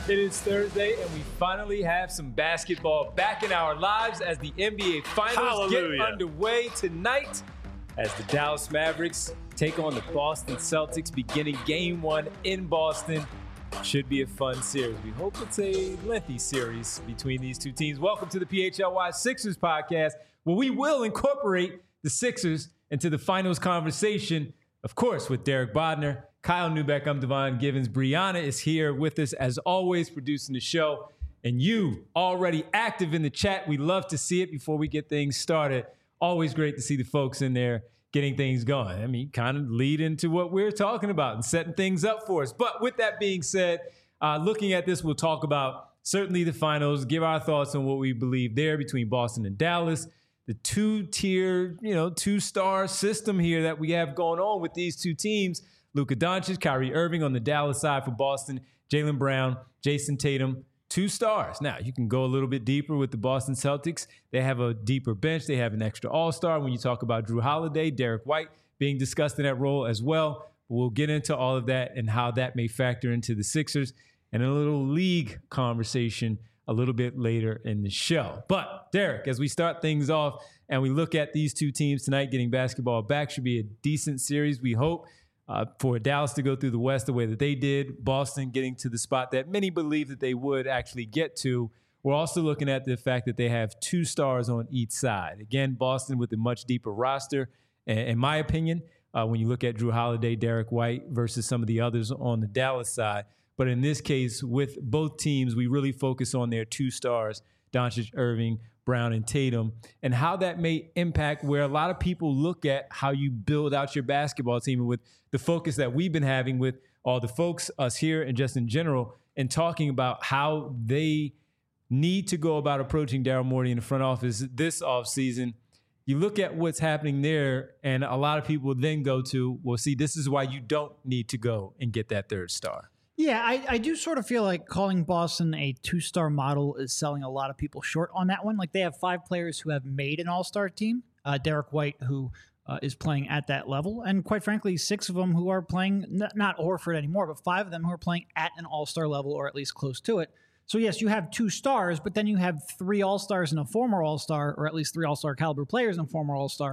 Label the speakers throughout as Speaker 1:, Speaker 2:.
Speaker 1: It is Thursday, and we finally have some basketball back in our lives as the NBA Finals get underway tonight as the Dallas Mavericks take on the Boston Celtics, beginning Game 1 in Boston. Should be a fun series. We hope it's a lengthy series between these two teams. Welcome to the PHLY Sixers podcast, where we will incorporate the Sixers into the finals conversation, of course, with Derek Bodner, Kyle Neubeck. I'm Devon Givens. Brianna is here with us, as always, producing the show. And you, already active in the chat. We love to see it before we get things started. Always great to see the folks in there getting things going. I mean, kind of lead into what we're talking about and setting things up for us. But with that being said, looking at this, we'll talk about certainly the finals, give our thoughts on what we believe there between Boston and Dallas. The two-tier, two-star system here that we have going on with these two teams. Luka Doncic, Kyrie Irving on the Dallas side for Boston, Jaylen Brown, Jason Tatum, 2 stars. Now, you can go a little bit deeper with the Boston Celtics. They have a deeper bench. They have an extra all-star. When you talk about Jrue Holiday, Derek White being discussed in that role as well. We'll get into all of that and how that may factor into the Sixers and a little league conversation a little bit later in the show. But, Derek, as we start things off and we look at these two teams tonight getting basketball back, should be a decent series, we hope. For Dallas to go through the West the way that they did, Boston getting to the spot that many believe that they would actually get to. We're also looking at the fact that they have 2 stars on each side. Again, Boston with a much deeper roster, in my opinion, when you look at Jrue Holiday, Derek White versus some of the others on the Dallas side. But in this case, with both teams, we really focus on their 2 stars, Doncic, Irving, Brown, and Tatum, and how that may impact where a lot of people look at how you build out your basketball team, and with the focus that we've been having with all the folks, us here, and just in general, and talking about how they need to go about approaching Daryl Morey in the front office this offseason. You look at what's happening there, and a lot of people then go to, well, see, this is why you don't need to go and get that 3rd star.
Speaker 2: Yeah, I do sort of feel like calling Boston a 2-star model is selling a lot of people short on that one. Like, they have 5 players who have made an all-star team. Derek White, who is playing at that level. And quite frankly, 6 of them who are playing, not Horford anymore, but 5 of them who are playing at an all-star level or at least close to it. So yes, you have 2 stars, but then you have 3 all-stars and a former all-star, or at least 3 all-star caliber players and a former all-star.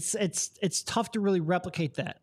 Speaker 2: It's tough to really replicate that.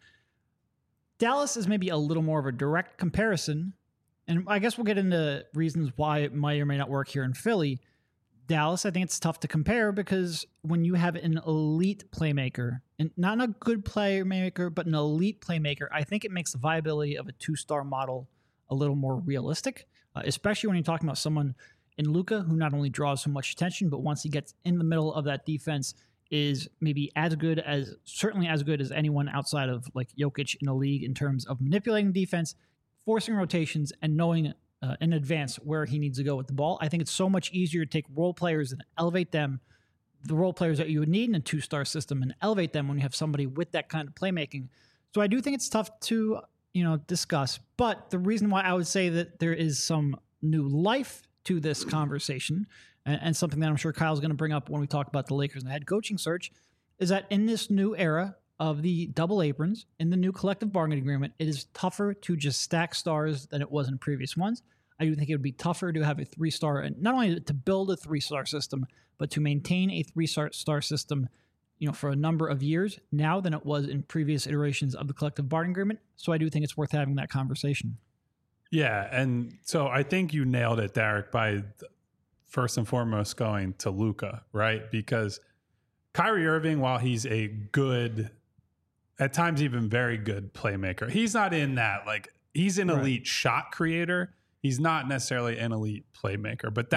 Speaker 2: Dallas is maybe a little more of a direct comparison, and I guess we'll get into reasons why it might or may not work here in Philly. Dallas, I think it's tough to compare because when you have an elite playmaker, and not a good playmaker, but an elite playmaker, I think it makes the viability of a 2-star model a little more realistic, especially when you're talking about someone in Luka who not only draws so much attention, but once he gets in the middle of that defense, is maybe certainly as good as anyone outside of like Jokic in the league in terms of manipulating defense, forcing rotations, and knowing in advance where he needs to go with the ball. I think it's so much easier to take role players and elevate them, the role players that you would need in a 2-star system, and elevate them when you have somebody with that kind of playmaking. So I do think it's tough to, discuss. But the reason why I would say that there is some new life to this conversation, and something that I'm sure Kyle's going to bring up when we talk about the Lakers and the head coaching search, is that in this new era of the double aprons, in the new collective bargaining agreement, it is tougher to just stack stars than it was in previous ones. I do think it would be tougher to have a 3-star, and not only to build a 3-star system, but to maintain a 3-star system, for a number of years now than it was in previous iterations of the collective bargaining agreement. So I do think it's worth having that conversation.
Speaker 3: Yeah, and so I think you nailed it, Derek, by first and foremost going to Luka, right? Because Kyrie Irving, while he's a good, at times even very good playmaker, he's not in that, like, he's an elite shot creator. He's not necessarily an elite playmaker, but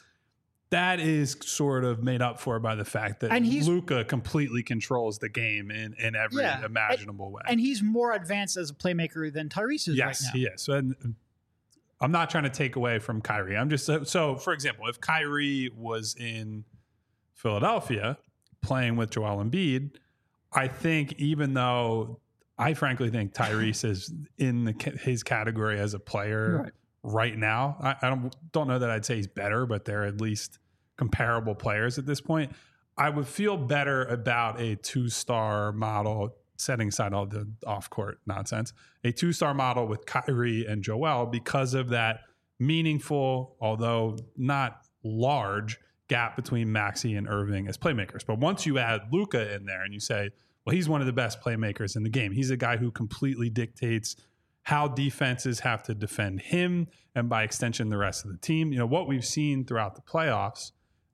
Speaker 3: that is sort of made up for by the fact that Luka completely controls the game in every imaginable way.
Speaker 2: And he's more advanced as a playmaker than Tyrese is right now.
Speaker 3: Yes, he is. And I'm not trying to take away from Kyrie. I'm just, so for example, if Kyrie was in Philadelphia playing with Joel Embiid, I think, even though I frankly think Tyrese is in his category as a player right now, I don't know that I'd say he's better, but they're at least comparable players at this point. I would feel better about a 2-star model, setting aside all the off-court nonsense, a 2-star model with Kyrie and Joel because of that meaningful, although not large, gap between Maxey and Irving as playmakers. But once you add Luka in there and you say, well, he's one of the best playmakers in the game. He's a guy who completely dictates how defenses have to defend him and by extension the rest of the team. What we've seen throughout the playoffs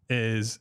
Speaker 3: is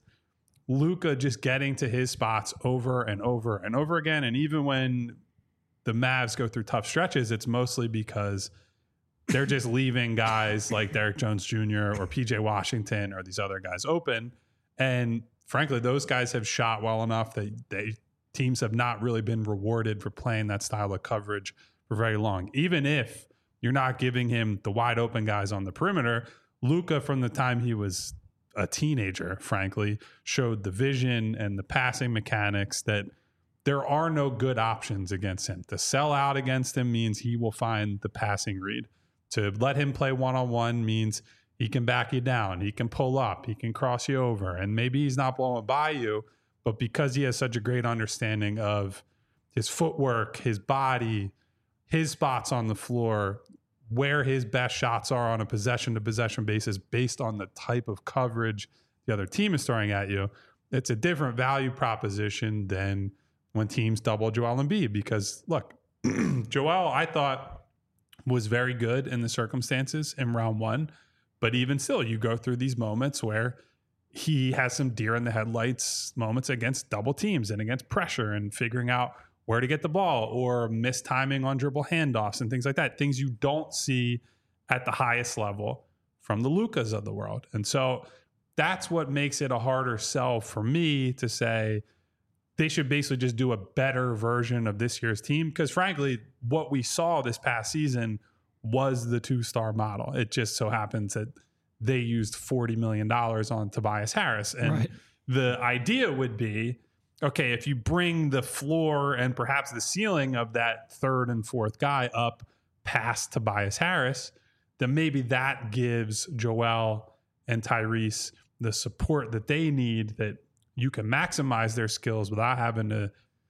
Speaker 3: Luka just getting to his spots over and over and over again. And even when the Mavs go through tough stretches, it's mostly because they're just leaving guys like Derrick Jones Jr. or PJ Washington or these other guys open. And frankly, those guys have shot well enough that teams have not really been rewarded for playing that style of coverage for very long. Even if you're not giving him the wide open guys on the perimeter, Luka, from the time he was a teenager, frankly, showed the vision and the passing mechanics that there are no good options against him. To sell out against him means he will find the passing read. To let him play one-on-one means he can back you down. He can pull up. He can cross you over. And maybe he's not blowing by you, but because he has such a great understanding of his footwork, his body, his spots on the floor, where his best shots are on a possession-to-possession basis based on the type of coverage the other team is throwing at you, it's a different value proposition than when teams double Joel Embiid. Because, look, Joel, I thought, was very good in the circumstances in round one. But even still, you go through these moments where he has some deer in the headlights moments against double teams and against pressure and figuring out where to get the ball or mistiming on dribble handoffs and things like that. Things you don't see at the highest level from the Lukas of the world. And so that's what makes it a harder sell for me to say they should basically just do a better version of this year's team. Because frankly, what we saw this past season was the two-star model. It just so happens that they used $40 million on Tobias Harris. And the idea would be, okay, if you bring the floor and perhaps the ceiling of that third and fourth guy up past Tobias Harris, then maybe that gives Joel and Tyrese the support that they need, that you can maximize their skills without having to,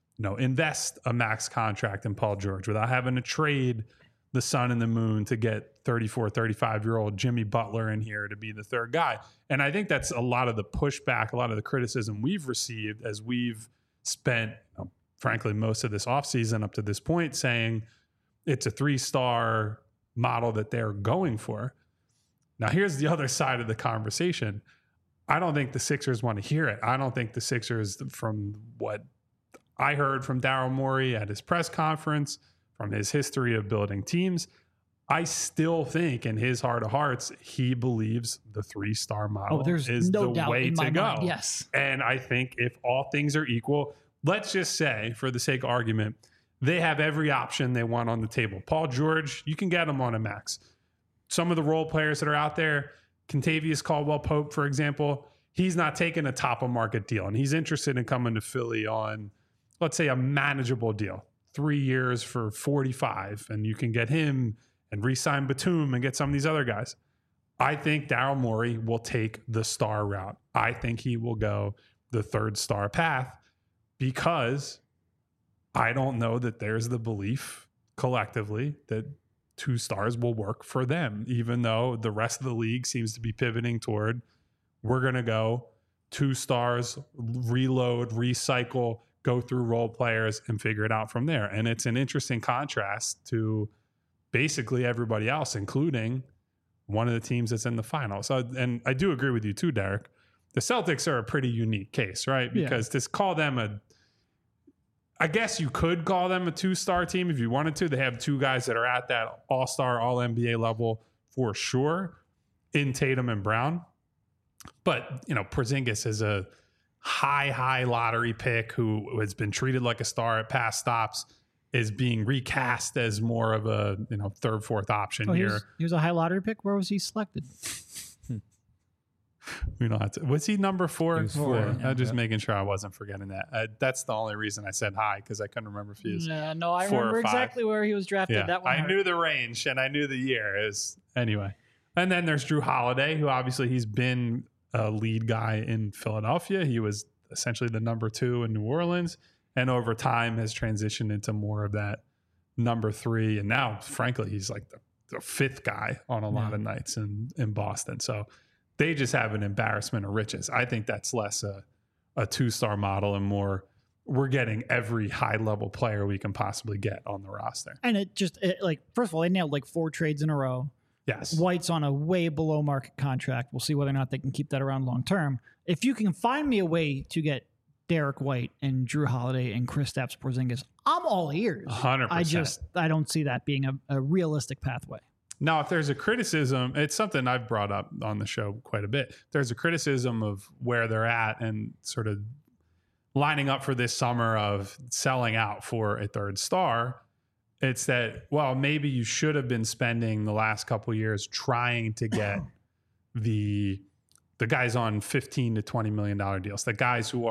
Speaker 3: invest a max contract in Paul George, without having to trade the sun and the moon to get 34, 35-year-old Jimmy Butler in here to be the third guy. And I think that's a lot of the pushback, a lot of the criticism we've received as we've spent, frankly, most of this offseason up to this point saying it's a three-star model that they're going for. Now, here's the other side of the conversation. I don't think the Sixers want to hear it. I don't think the Sixers, from what I heard from Daryl Morey at his press conference, from his history of building teams, I still think in his heart of hearts, he believes the three-star model is no the way to go.
Speaker 2: Mind, yes.
Speaker 3: And I think if all things are equal, let's just say, for the sake of argument, they have every option they want on the table. Paul George, you can get him on a max. Some of the role players that are out there, Kentavious Caldwell-Pope, for example, he's not taking a top-of-market deal, and he's interested in coming to Philly on, let's say, a manageable deal. 3 years for 45, and you can get him and re-sign Batum and get some of these other guys. I think Daryl Morey will take the star route. I think he will go the third star path because I don't know that there's the belief collectively that 2 stars will work for them, even though the rest of the league seems to be pivoting toward we're going to go 2 stars, reload, recycle, go through role players and figure it out from there. And it's an interesting contrast to basically everybody else, including one of the teams that's in the final. So, and I do agree with you too, Derek. The Celtics are a pretty unique case, right? Because to call them I guess you could call them a 2-star team if you wanted to. They have 2 guys that are at that all-star, all-NBA level for sure in Tatum and Brown. But, Porzingis is a high lottery pick who has been treated like a star at past stops, is being recast as more of a, third, fourth option here.
Speaker 2: He was a high lottery pick. Where was he selected?
Speaker 3: We don't have to. Was he number 4?
Speaker 1: He was 4.
Speaker 3: I was just making sure I wasn't forgetting that. That's the only reason I said high, because I couldn't remember if he was
Speaker 2: no, I remember exactly where he was drafted.
Speaker 3: Yeah,
Speaker 2: that one
Speaker 3: I knew the range and I knew the year. Anyway. And then there's Drew Holiday, who obviously he's been a lead guy in Philadelphia. He was essentially the number 2 in New Orleans, and over time has transitioned into more of that number 3. And now, frankly, he's like the a fifth guy on a lot of nights in Boston. So they just have an embarrassment of riches. I think that's less a two-star model and more we're getting every high-level player we can possibly get on the roster.
Speaker 2: And first of all, they nailed like 4 trades in a row.
Speaker 3: Yes.
Speaker 2: White's on a way below market contract. We'll see whether or not they can keep that around long term. If you can find me a way to get Derek White and Drew Holiday and Kristaps Porzingis, I'm all ears.
Speaker 3: 100%.
Speaker 2: I don't see that being a realistic pathway.
Speaker 3: Now, if there's a criticism, it's something I've brought up on the show quite a bit. There's a criticism of where they're at and sort of lining up for this summer of selling out for a third star. It's that, well, maybe you should have been spending the last couple of years trying to get the guys on $15 to $20 million deals, the guys who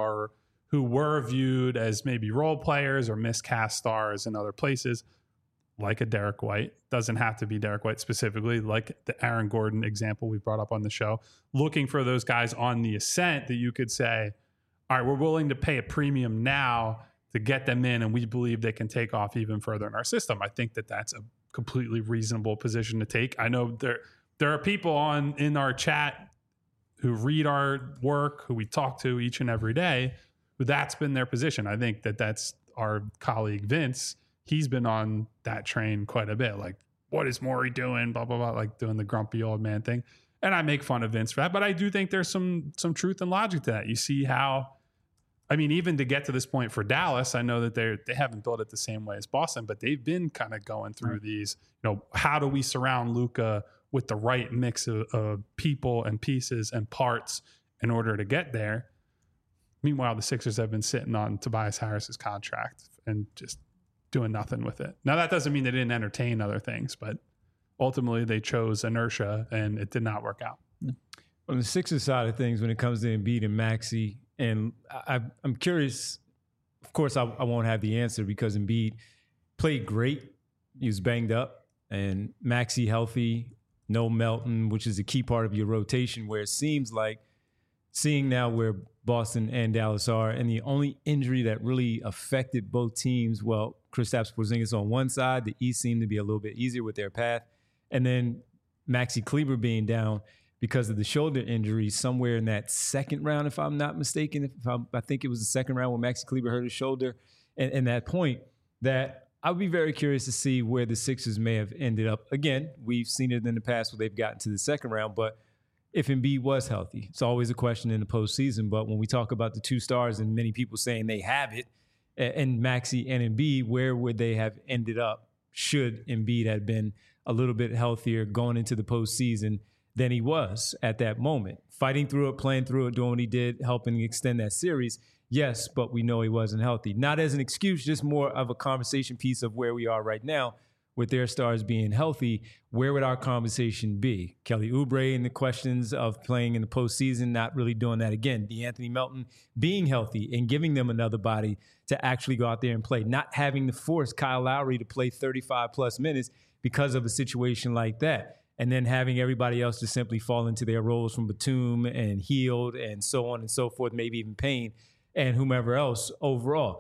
Speaker 3: were viewed as maybe role players or miscast stars in other places, like a Derek White. Doesn't have to be Derek White specifically, like the Aaron Gordon example we brought up on the show. Looking for those guys on the ascent that you could say, all right, we're willing to pay a premium now to get them in, and we believe they can take off even further in our system. I think that that's a completely reasonable position to take. I know there are people in our chat who read our work, who we talk to each and every day, who that's been their position. I think that that's our colleague Vince. He's been on that train quite a bit. Like, what is Morey doing? Blah, blah, blah, like doing the grumpy old man thing. And I make fun of Vince for that, but I do think there's some truth and logic to that. You see how, I mean, even to get to this point for Dallas, I know that they haven't built it the same way as Boston, but they've been kind of going through these, how do we surround Luka with the right mix of people and pieces and parts in order to get there? Meanwhile, the Sixers have been sitting on Tobias Harris's contract and just doing nothing with it. Now, that doesn't mean they didn't entertain other things, but ultimately they chose inertia and it did not work out.
Speaker 4: On the Sixers side of things, when it comes to Embiid and Maxey, and I'm curious, of course, I won't have the answer because Embiid played great. He was banged up, and Maxey healthy, no Melton, which is a key part of your rotation, where it seems like seeing now where Boston and Dallas are, and the only injury that really affected both teams, well, Kristaps Porzingis on one side, the East seemed to be a little bit easier with their path, and then Maxey Kleber being down because of the shoulder injury somewhere in that second round, if I'm not mistaken. I think it was the second round when Maxey Kleber hurt his shoulder. And that point, that I would be very curious to see where the Sixers may have ended up. Again, we've seen it in the past where they've gotten to the second round, but if Embiid was healthy, it's always a question in the postseason. But when we talk about the 2 stars and many people saying they have it, and Maxey and Embiid, where would they have ended up should Embiid have been a little bit healthier going into the postseason than he was at that moment? Fighting through it, playing through it, doing what he did, helping extend that series. Yes, but we know he wasn't healthy. Not as an excuse, just more of a conversation piece of where we are right now with their stars being healthy. Where would our conversation be? Kelly Oubre and the questions of playing in the postseason, not really doing that again. DeAnthony Melton being healthy and giving them another body to actually go out there and play. Not having to force Kyle Lowry to play 35-plus minutes because of a situation like that. And then having everybody else to simply fall into their roles from Batum and Hield and so on and so forth, maybe even Payne and whomever else overall.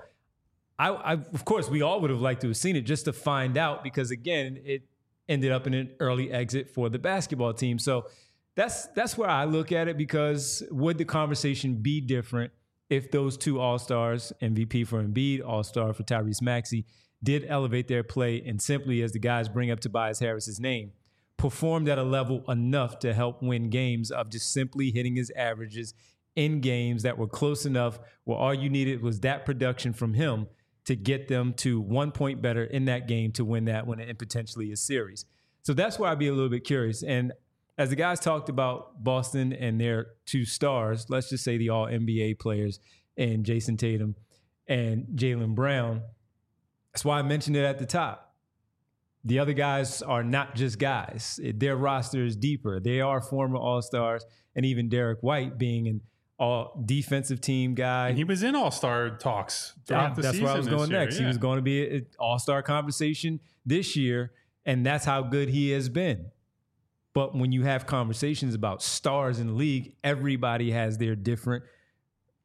Speaker 4: Of course, we all would have liked to have seen it just to find out because, again, it ended up in an early exit for the basketball team. So that's where I look at it, because would the conversation be different if those 2 All-Stars, MVP for Embiid, All-Star for Tyrese Maxey, did elevate their play and simply, as the guys bring up Tobias Harris's name, performed at a level enough to help win games of just simply hitting his averages in games that were close enough where all you needed was that production from him to get them to 1 point better in that game to win that one and potentially a series. So that's why I'd be a little bit curious. And as the guys talked about Boston and their 2 stars, let's just say the all-NBA players and Jason Tatum and Jaylen Brown, that's why I mentioned it at the top. The other guys are not just guys. Their roster is deeper. They are former All-Stars, and even Derek White being an all-defensive team guy.
Speaker 3: And he was in All-Star talks throughout the season.
Speaker 4: That's where I was going next.
Speaker 3: Yeah.
Speaker 4: He was going to be an All-Star conversation this year, and that's how good he has been. But when you have conversations about stars in the league, everybody has their different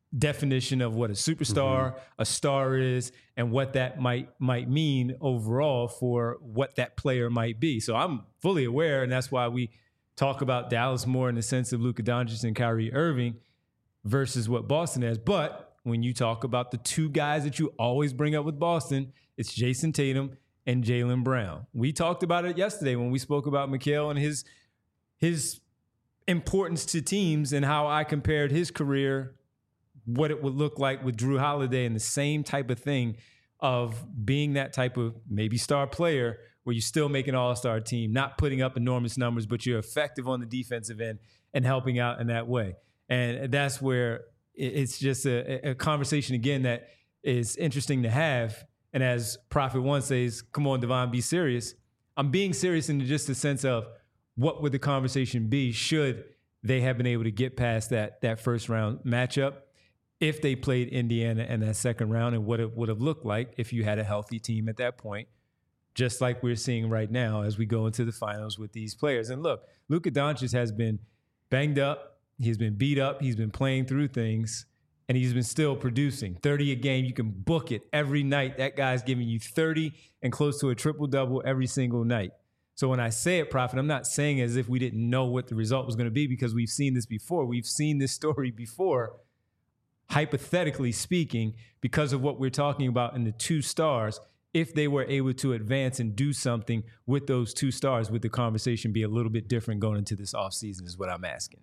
Speaker 4: definition of what a superstar, a star is, and what that might mean overall for what that player might be. So I'm fully aware, and that's why we talk about Dallas more in the sense of Luka Doncic and Kyrie Irving versus what Boston has. But when you talk about the two guys that you always bring up with Boston, it's Jason Tatum and Jaylen Brown. We talked about it yesterday when we spoke about Mikal and his importance to teams and how I compared his career, what it would look like with Drew Holiday, and the same type of thing of being that type of maybe star player where you still make an all-star team, not putting up enormous numbers, but you're effective on the defensive end and helping out in that way. And that's where it's just a conversation, again, that is interesting to have. And as Prophet One says, come on, Devon, be serious. I'm being serious in just the sense of what would the conversation be should they have been able to get past that first round matchup if they played Indiana in that second round, and what it would have looked like if you had a healthy team at that point, just like we're seeing right now as we go into the finals with these players. And look, Luka Doncic has been banged up. He's been beat up. He's been playing through things, and he's been still producing 30 a game. You can book it every night. That guy's giving you 30 and close to a triple-double every single night. So when I say it, Prophet, I'm not saying as if we didn't know what the result was going to be, because we've seen this before. We've seen this story before, hypothetically speaking, because of what we're talking about in the two stars. If they were able to advance and do something with those two stars, would the conversation be a little bit different going into this offseason is what I'm asking.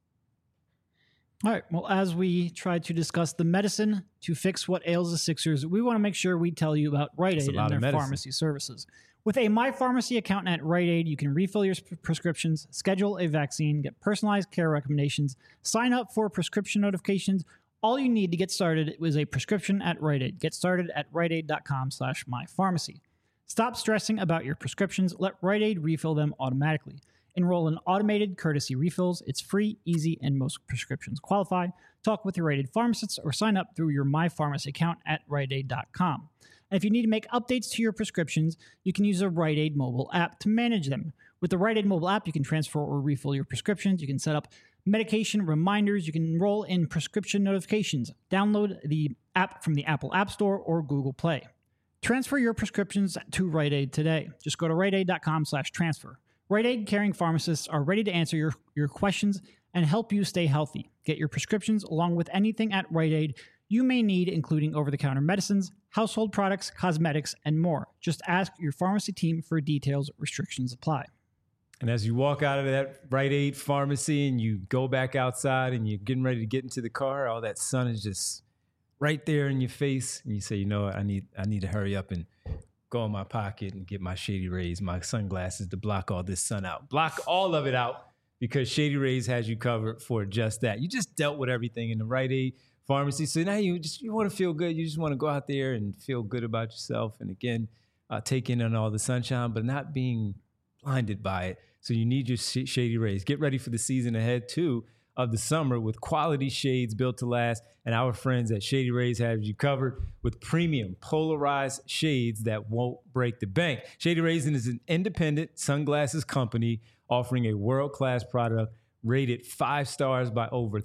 Speaker 2: All right. Well, as we try to discuss the medicine to fix what ails the Sixers, we want to make sure we tell you about Rite Aid and their pharmacy services. With a MyPharmacy account at Rite Aid, you can refill your prescriptions, schedule a vaccine, get personalized care recommendations, sign up for prescription notifications. All you need to get started is a prescription at Rite Aid. Get started at riteaid.com/mypharmacy. Stop stressing about your prescriptions. Let Rite Aid refill them automatically. Enroll in automated courtesy refills. It's free, easy, and most prescriptions qualify. Talk with your Rite Aid pharmacist or sign up through your MyPharmacy account at riteaid.com. And if you need to make updates to your prescriptions, you can use a Rite Aid mobile app to manage them. With the Rite Aid mobile app, you can transfer or refill your prescriptions. You can set up medication reminders. You can enroll in prescription notifications. Download the app from the Apple App Store or Google Play. Transfer your prescriptions to Rite Aid today. Just go to riteaid.com/transfer. Rite Aid caring pharmacists are ready to answer your questions and help you stay healthy. Get your prescriptions along with anything at Rite Aid you may need, including over-the-counter medicines, household products, cosmetics, and more. Just ask your pharmacy team for details. Restrictions apply.
Speaker 4: And as you walk out of that Rite Aid pharmacy and you go back outside and you're getting ready to get into the car, all that sun is just right there in your face. And you say, you know what, I need to hurry up and go in my pocket and get my Shady Rays, my sunglasses to block all this sun out. Block all of it out, because Shady Rays has you covered for just that. You just dealt with everything in the Rite Aid pharmacy. So now you want to feel good. You just want to go out there and feel good about yourself. And again, take in on all the sunshine, but not being blinded by it. So you need your Shady Rays. Get ready for the season ahead, too, of the summer with quality shades built to last. And our friends at Shady Rays have you covered with premium polarized shades that won't break the bank. Shady Rays is an independent sunglasses company offering a world-class product rated 5 stars by over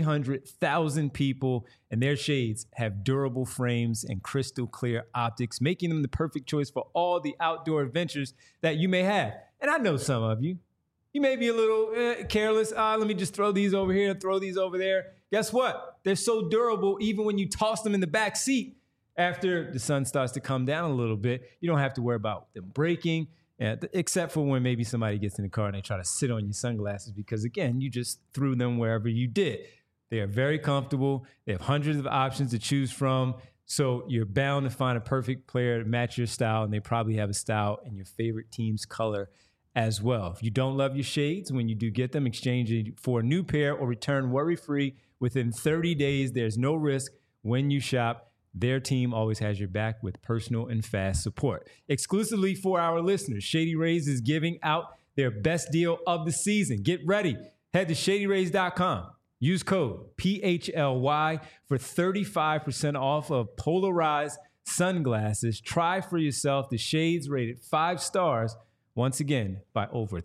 Speaker 4: 300,000 people. And their shades have durable frames and crystal clear optics, making them the perfect choice for all the outdoor adventures that you may have. And I know some of you. You may be a little careless. Let me just throw these over here, throw these over there. Guess what? They're so durable, even when you toss them in the back seat after the sun starts to come down a little bit, you don't have to worry about them breaking, except for when maybe somebody gets in the car and they try to sit on your sunglasses because, again, you just threw them wherever you did. They are very comfortable. They have hundreds of options to choose from. So you're bound to find a perfect player to match your style, and they probably have a style in your favorite team's color as well. If you don't love your shades, when you do get them, exchange it for a new pair or return worry-free within 30 days. There's no risk when you shop. Their team always has your back with personal and fast support. Exclusively for our listeners, Shady Rays is giving out their best deal of the season. Get ready. Head to shadyrays.com. Use code PHLY for 35% off of polarized sunglasses. Try for yourself the shades rated 5 stars, once again, by over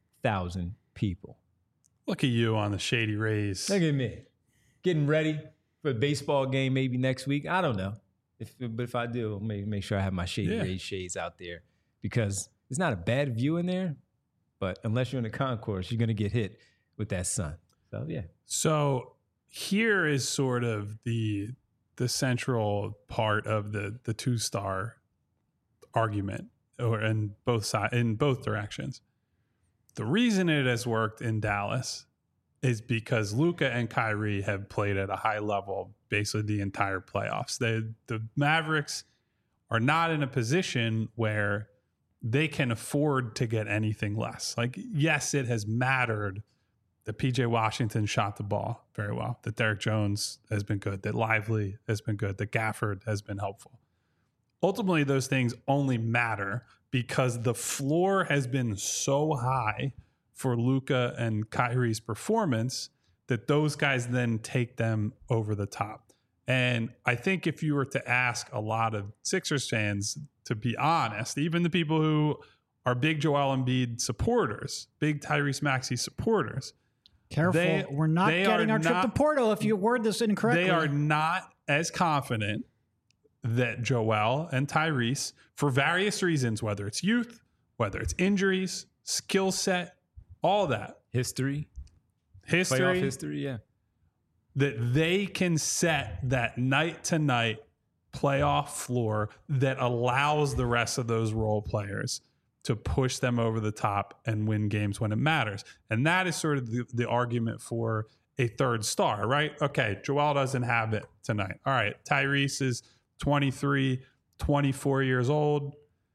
Speaker 4: 300,000 people.
Speaker 3: Look at you on the Shady Rays.
Speaker 4: Look at me. Getting ready for a baseball game maybe next week. I don't know. But if I do, I'll make sure I have my Shady Rays shades out there, because it's not a bad view in there, but unless you're in the concourse, you're going to get hit with that sun. So, yeah.
Speaker 3: So here is sort of the central part of the 2-star argument, or in both directions. The reason it has worked in Dallas is because Luka and Kyrie have played at a high level basically the entire playoffs. The Mavericks are not in a position where they can afford to get anything less. Like, yes, it has mattered that PJ Washington shot the ball very well, that Derek Jones has been good, that Lively has been good, that Gafford has been helpful. Ultimately, those things only matter because the floor has been so high for Luka and Kyrie's performance that those guys then take them over the top. And I think if you were to ask a lot of Sixers fans, to be honest, even the people who are big Joel Embiid supporters, big Tyrese Maxey supporters,
Speaker 2: careful, we're not getting our trip to Porto if you word this incorrectly.
Speaker 3: They are not as confident that Joel and Tyrese, for various reasons, whether it's youth, whether it's injuries, skill set, all that.
Speaker 4: History, playoff history, yeah.
Speaker 3: That they can set that night-to-night playoff floor that allows the rest of those role players to push them over the top and win games when it matters. And that is sort of the argument for a third star, right? Okay, Joel doesn't have it tonight. All right, Tyrese is 23, 24 years old,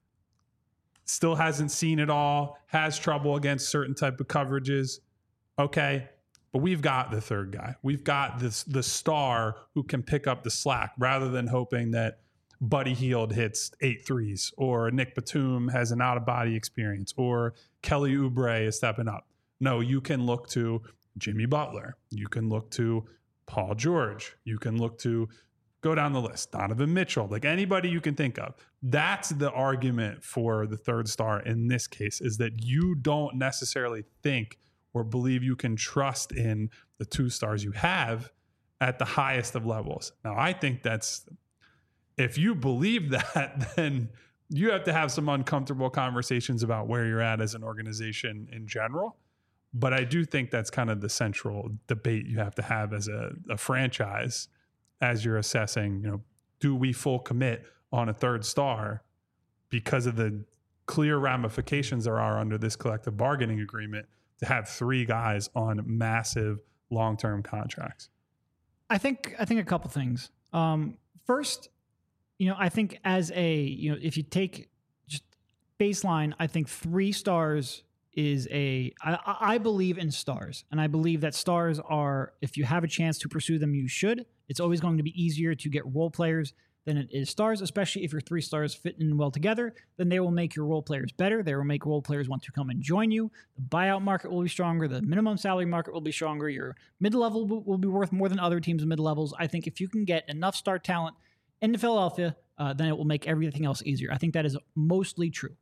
Speaker 3: still hasn't seen it all, has trouble against certain type of coverages. Okay, but we've got the third guy. We've got the star who can pick up the slack rather than hoping that Buddy Hield hits 8 threes, or Nick Batum has an out-of-body experience, or Kelly Oubre is stepping up. No, you can look to Jimmy Butler. You can look to Paul George. You can look to, go down the list, Donovan Mitchell, like anybody you can think of. That's the argument for the third star in this case, is that you don't necessarily think or believe you can trust in the 2 stars you have at the highest of levels. Now, I think that's, if you believe that, then you have to have some uncomfortable conversations about where you're at as an organization in general. But I do think that's kind of the central debate you have to have as a franchise as you're assessing, do we full commit on a third star because of the clear ramifications there are under this collective bargaining agreement to have 3 guys on massive long-term contracts?
Speaker 2: I think a couple things. First, I think as if you take just baseline, I think 3 stars is I believe in stars, and I believe that stars are, if you have a chance to pursue them, you should. It's always going to be easier to get role players than it is stars, especially if your 3 stars fit in well together. Then they will make your role players better. They will make role players want to come and join you. The buyout market will be stronger. The minimum salary market will be stronger. Your mid-level will be worth more than other teams' mid-levels. I think if you can get enough star talent into Philadelphia, then it will make everything else easier. I think that is mostly true.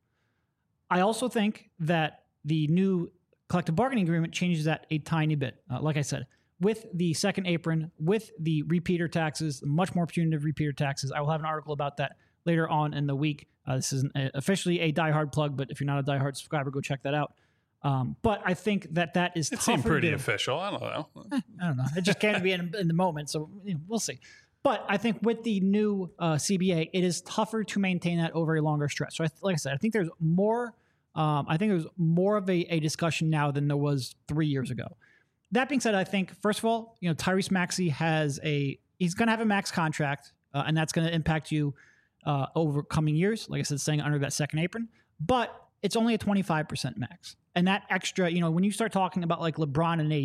Speaker 2: I also think that the new collective bargaining agreement changes that a tiny bit. Like I said, with the second apron, with the repeater taxes, much more punitive repeater taxes. I will have an article about that later on in the week. This isn't officially a diehard plug, but if you're not a diehard subscriber, go check that out. But I think that is
Speaker 3: it seemed pretty official. I don't know.
Speaker 2: I don't know. It just can't be in the moment, so we'll see. But I think with the new CBA, it is tougher to maintain that over a longer stretch. So, like I said, I think there's more. I think there's more of a discussion now than there was 3 years ago. That being said, I think first of all, Tyrese Maxey he's going to have a max contract, and that's going to impact you over coming years. Like I said, staying under that second apron, but it's only a 25% max, and that extra, when you start talking about like LeBron and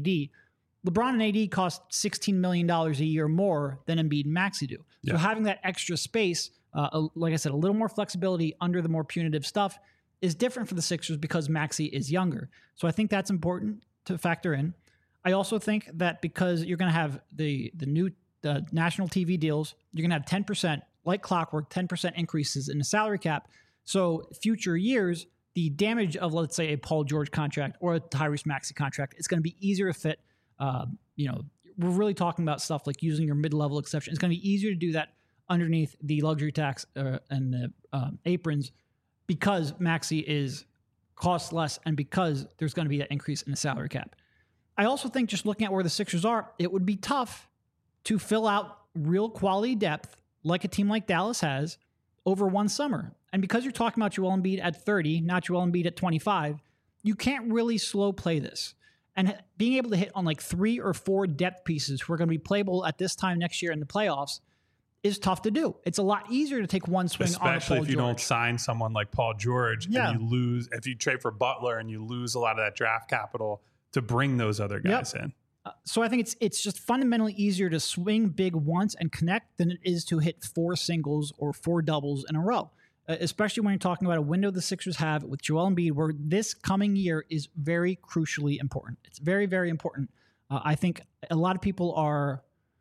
Speaker 2: AD cost $16 million a year more than Embiid and Maxey do. Yeah. So having that extra space, like I said, a little more flexibility under the more punitive stuff is different for the Sixers because Maxey is younger. So I think that's important to factor in. I also think that because you're going to have the new national TV deals, you're going to have 10%, like clockwork, 10% increases in the salary cap. So future years, the damage of, let's say, a Paul George contract or a Tyrese Maxey contract, it's going to be easier to fit, we're really talking about stuff like using your mid-level exception. It's going to be easier to do that underneath the luxury tax and the aprons because Maxey costs less and because there's going to be that increase in the salary cap. I also think just looking at where the Sixers are, it would be tough to fill out real quality depth like a team like Dallas has over one summer. And because you're talking about Joel Embiid at 30, not Joel Embiid at 25, you can't really slow play this. And being able to hit on like 3 or 4 depth pieces who are going to be playable at this time next year in the playoffs is tough to do. It's a lot easier to take one swing on Paul George.
Speaker 3: Especially if you don't sign someone like Paul George and you lose, if you trade for Butler and you lose a lot of that draft capital to bring those other guys in.
Speaker 2: So I think it's just fundamentally easier to swing big once and connect than it is to hit 4 singles or 4 doubles in a row, especially when you're talking about a window the Sixers have with Joel Embiid where this coming year is very crucially important. It's very, very important. I think a lot of people are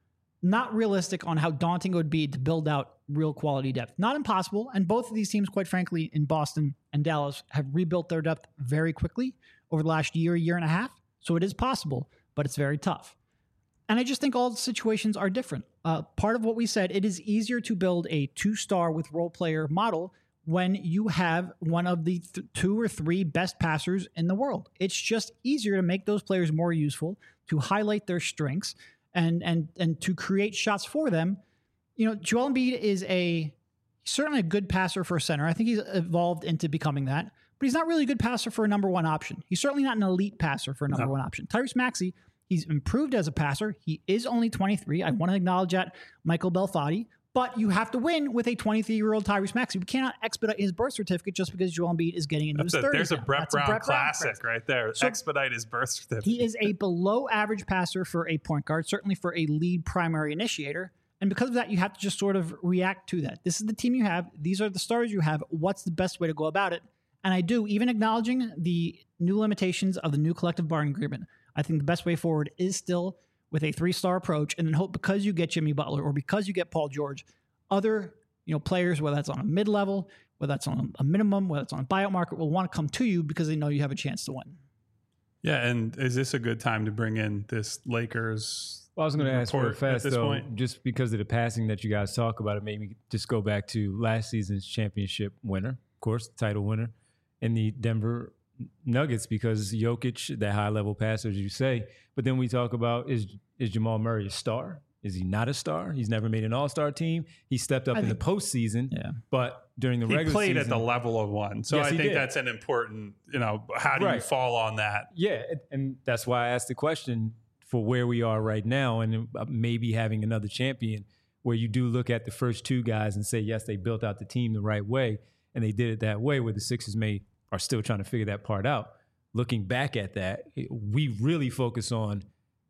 Speaker 2: not realistic on how daunting it would be to build out real quality depth. Not impossible, and both of these teams, quite frankly, in Boston and Dallas, have rebuilt their depth very quickly over the last year and a half, so it is possible, but it's very tough. And I just think all the situations are different. Part of what we said, it is easier to build a 2-star with role player model when you have one of the 2 or 3 best passers in the world. It's just easier to make those players more useful, to highlight their strengths, and to create shots for them. You know, Joel Embiid is certainly a good passer for a center. I think he's evolved into becoming that, but he's not really a good passer for a number 1 option. He's certainly not an elite passer for a number 1 option. Tyrese Maxey, he's improved as a passer. He is only 23. I want to acknowledge that, Michael Belfatti. But you have to win with a 23-year-old Tyrese Maxey. We cannot expedite his birth certificate just because Joel Embiid is getting into his 30s.
Speaker 3: There's a Brett Brown classic right there. So expedite his birth certificate.
Speaker 2: He is a below-average passer for a point guard, certainly for a lead primary initiator. And because of that, you have to just sort of react to that. This is the team you have. These are the stars you have. What's the best way to go about it? And I do, even acknowledging the new limitations of the new collective bargaining agreement, I think the best way forward is still with a 3-star approach, and then hope because you get Jimmy Butler or because you get Paul George, other players, whether that's on a mid-level, whether that's on a minimum, whether it's on a buyout market, will want to come to you because they know you have a chance to win.
Speaker 3: Yeah, and is this a good time to bring in this Lakers?
Speaker 4: Well, I was going to ask real fast, though, just because of the passing that you guys talk about, it made me just go back to last season's championship winner, of course, title winner, in the Denver Nuggets, because Jokic, that high-level passer, as you say. But then we talk about, is Jamal Murray a star? Is he not a star? He's never made an all-star team. He stepped up in the postseason, but during the regular season...
Speaker 3: He played at the level of one. So yes, I think that's an important, how do you fall on that?
Speaker 4: Yeah, and that's why I asked the question for where we are right now and maybe having another champion where you do look at the first 2 guys and say, yes, they built out the team the right way, and they did it that way, where the Sixers are still trying to figure that part out. Looking back at that, we really focus on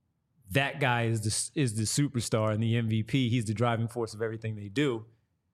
Speaker 4: that guy is the superstar and the MVP. He's the driving force of everything they do.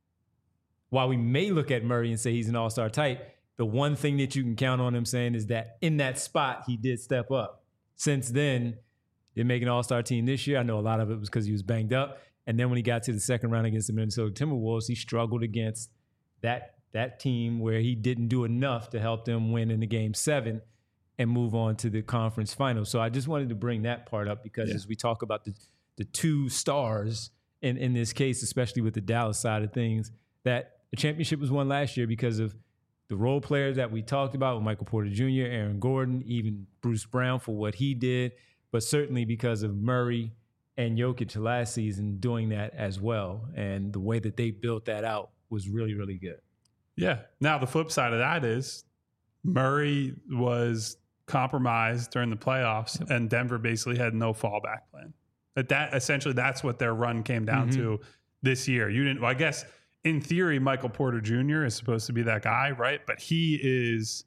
Speaker 4: While we may look at Murray and say he's an all-star type, the one thing that you can count on him saying is that in that spot, he did step up. Since then, didn't make an all-star team this year. I know a lot of it was because he was banged up. And then when he got to the second round against the Minnesota Timberwolves, he struggled against that team where he didn't do enough to help them win in the Game 7 and move on to the conference final. So I just wanted to bring that part up because as we talk about the 2 stars in this case, especially with the Dallas side of things, that the championship was won last year because of the role players that we talked about with Michael Porter Jr., Aaron Gordon, even Bruce Brown for what he did, but certainly because of Murray and Jokic last season doing that as well. And the way that they built that out was really, really good.
Speaker 3: Yeah. Now the flip side of that is Murray was compromised during the playoffs, and Denver basically had no fallback plan. Essentially, that's what their run came down to this year. I guess in theory, Michael Porter Jr. is supposed to be that guy, right? But he is.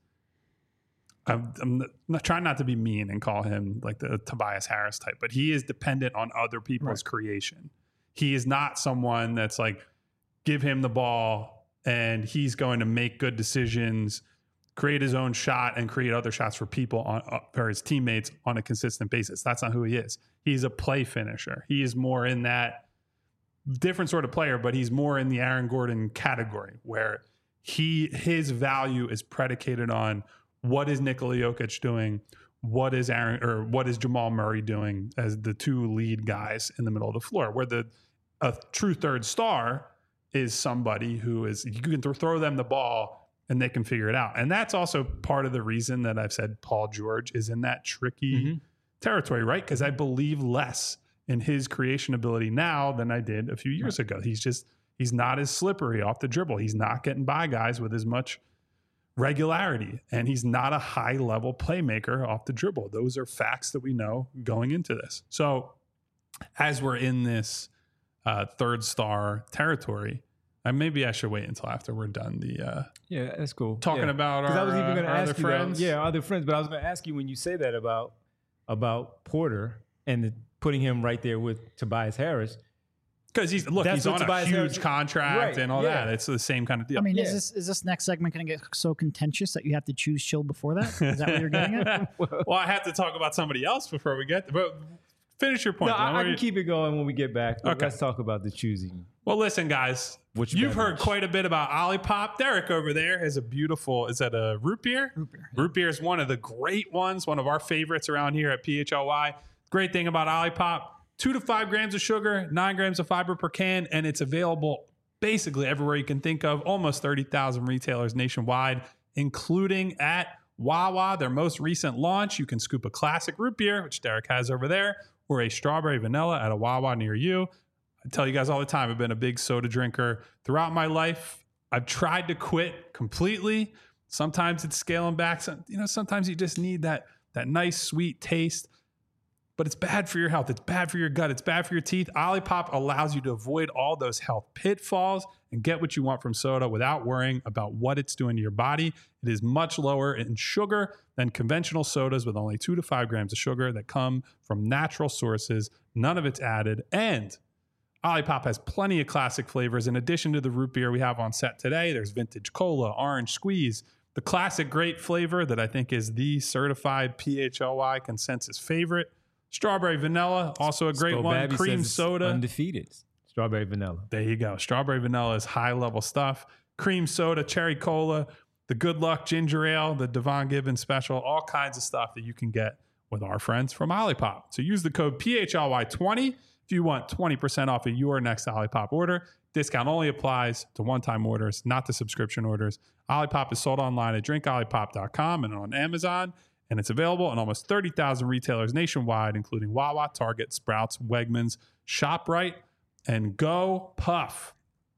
Speaker 3: I'm not trying not to be mean and call him like the Tobias Harris type, but he is dependent on other people's creation. He is not someone that's like, give him the ball and he's going to make good decisions, create his own shot, and create other shots for people for his teammates on a consistent basis. That's not who he is. He's a play finisher. He is more in that different sort of player, but he's more in the Aaron Gordon category where his value is predicated on what is Nikola Jokic doing, what is Jamal Murray doing as the two lead guys in the middle of the floor, where a true third star is somebody who is, you can throw them the ball and they can figure it out. And that's also part of the reason that I've said Paul George is in that tricky territory, right? Because I believe less in his creation ability now than I did a few years ago. He's not as slippery off the dribble. He's not getting by guys with as much regularity, and he's not a high level playmaker off the dribble. Those are facts that we know going into this. So as we're in this third star territory, maybe I should wait until after we're done
Speaker 4: yeah, that's cool.
Speaker 3: Talking about our,
Speaker 4: I was even going to ask
Speaker 3: other
Speaker 4: you
Speaker 3: friends.
Speaker 4: other friends. But I was going to ask you when you say that about Porter and putting him right there with Tobias Harris.
Speaker 3: Because he's on a huge contract and all that. It's the same kind of deal.
Speaker 2: I mean, is this next segment going to get so contentious that you have to choose Chill before that? Is that what you're getting at?
Speaker 3: Well, I have to talk about somebody else before we get there. But finish your point.
Speaker 4: No, I can keep it going when we get back.
Speaker 3: Okay.
Speaker 4: Let's talk about the choosing.
Speaker 3: Well, listen, guys. You've heard quite a bit about Olipop. Derek over there has a beautiful, is that a root beer?
Speaker 2: Root beer.
Speaker 3: Root beer is one of the great ones, one of our favorites around here at PHLY. Great thing about Olipop. 2 to 5 grams of sugar, 9 grams of fiber per can, and it's available basically everywhere you can think of. Almost 30,000 retailers nationwide, including at Wawa, their most recent launch. You can scoop a classic root beer, which Derek has over there, or a strawberry vanilla at a Wawa near you. I tell you guys all the time, I've been a big soda drinker throughout my life. I've tried to quit completely. Sometimes it's scaling back. Sometimes you just need that nice sweet taste. But it's bad for your health. It's bad for your gut. It's bad for your teeth. Olipop allows you to avoid all those health pitfalls and get what you want from soda without worrying about what it's doing to your body. It is much lower in sugar than conventional sodas with only 2 to 5 grams of sugar that come from natural sources. None of it's added. And Olipop has plenty of classic flavors. In addition to the root beer we have on set today, there's vintage cola, orange squeeze, the classic grape flavor that I think is the certified PHLY consensus favorite. Strawberry vanilla, also a great one.
Speaker 4: Babby
Speaker 3: Cream soda.
Speaker 4: Undefeated. Strawberry vanilla.
Speaker 3: There you go. Strawberry vanilla is high level stuff. Cream soda, cherry cola, the Good Luck ginger ale, the Devon Gibbons special, all kinds of stuff that you can get with our friends from Olipop. So use the code PHLY20 if you want 20% off of your next Olipop order. Discount only applies to one-time orders, not to subscription orders. Olipop is sold online at drinkolipop.com and on Amazon. And it's available in almost 30,000 retailers nationwide, including Wawa, Target, Sprouts, Wegmans, ShopRite, and Go Puff.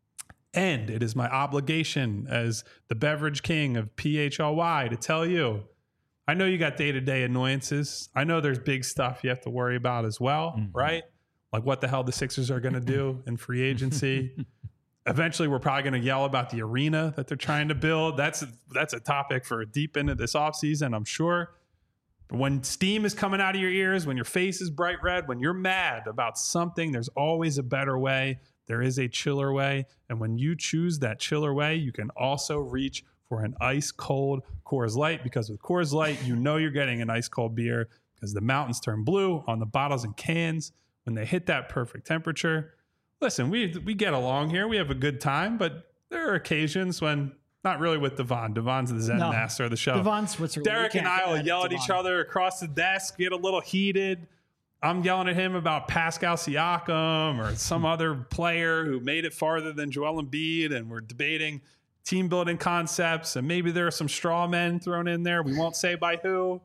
Speaker 3: And it is my obligation as the beverage king of PHLY to tell you, I know you got day-to-day annoyances. I know there's big stuff you have to worry about as well, right? Like what the hell the Sixers are going to do in free agency. Eventually, we're probably going to yell about the arena that they're trying to build. That's a topic for deep into this offseason, I'm sure. But when steam is coming out of your ears, when your face is bright red, when you're mad about something, there's always a better way. There is a chiller way. And when you choose that chiller way, you can also reach for an ice cold Coors Light, because with Coors Light, you know you're getting an ice cold beer because the mountains turn blue on the bottles and cans when they hit that perfect temperature. Listen, we get along here. We have a good time, but there are occasions when not really with Devon. Devon's the Zen master of the show.
Speaker 2: Devon's Switzerland.
Speaker 3: Derek and I will yell at each other across the desk, get a little heated. I'm yelling at him about Pascal Siakam or some other player who made it farther than Joel Embiid, and we're debating team building concepts, and maybe there are some straw men thrown in there. We won't say by who.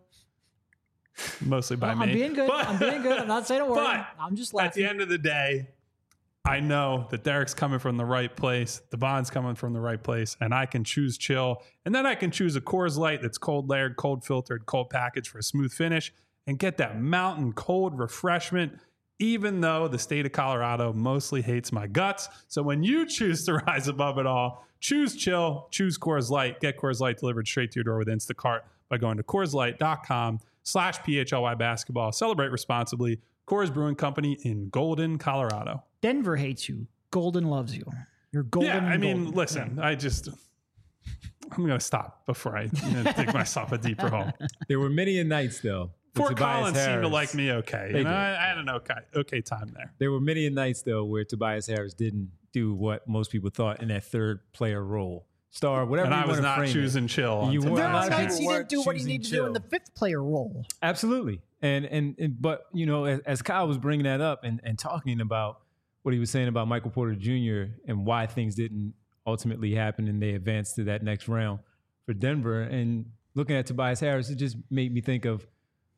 Speaker 3: Mostly by me.
Speaker 2: I'm being good. I'm not saying a word.
Speaker 3: But
Speaker 2: I'm just laughing.
Speaker 3: at the end of the day, I know that Derek's coming from the right place. Devon's coming from the right place, and I can choose chill. And then I can choose a Coors Light that's cold layered, cold filtered, cold packaged for a smooth finish and get that mountain cold refreshment, even though the state of Colorado mostly hates my guts. So when you choose to rise above it all, choose chill, choose Coors Light. Get Coors Light delivered straight to your door with Instacart by going to CoorsLight.com/PHLY basketball. Celebrate responsibly. Coors Brewing Company in Golden, Colorado.
Speaker 2: Denver hates you. Golden loves you. You're golden.
Speaker 3: Yeah, I mean,
Speaker 2: golden.
Speaker 3: listen, I'm going to stop before I dig myself a deeper hole.
Speaker 4: There were many nights, though.
Speaker 3: Fort Collins seemed to like me okay. I had an okay time there.
Speaker 4: There were many nights, though, where Tobias Harris didn't do what most people thought in that third player role. star, whatever.
Speaker 3: And
Speaker 4: you
Speaker 3: I was
Speaker 4: want to
Speaker 3: not
Speaker 4: frame
Speaker 3: choosing chill.
Speaker 4: You
Speaker 2: There
Speaker 4: were
Speaker 2: are
Speaker 4: not
Speaker 2: nights
Speaker 4: people
Speaker 2: he didn't do what he needed to do in the fifth player role.
Speaker 4: Absolutely. And but, you know, as Kyle was bringing that up and talking about what he was saying about Michael Porter Jr. and why things didn't ultimately happen and they advanced to that next round for Denver, and looking at Tobias Harris, it just made me think of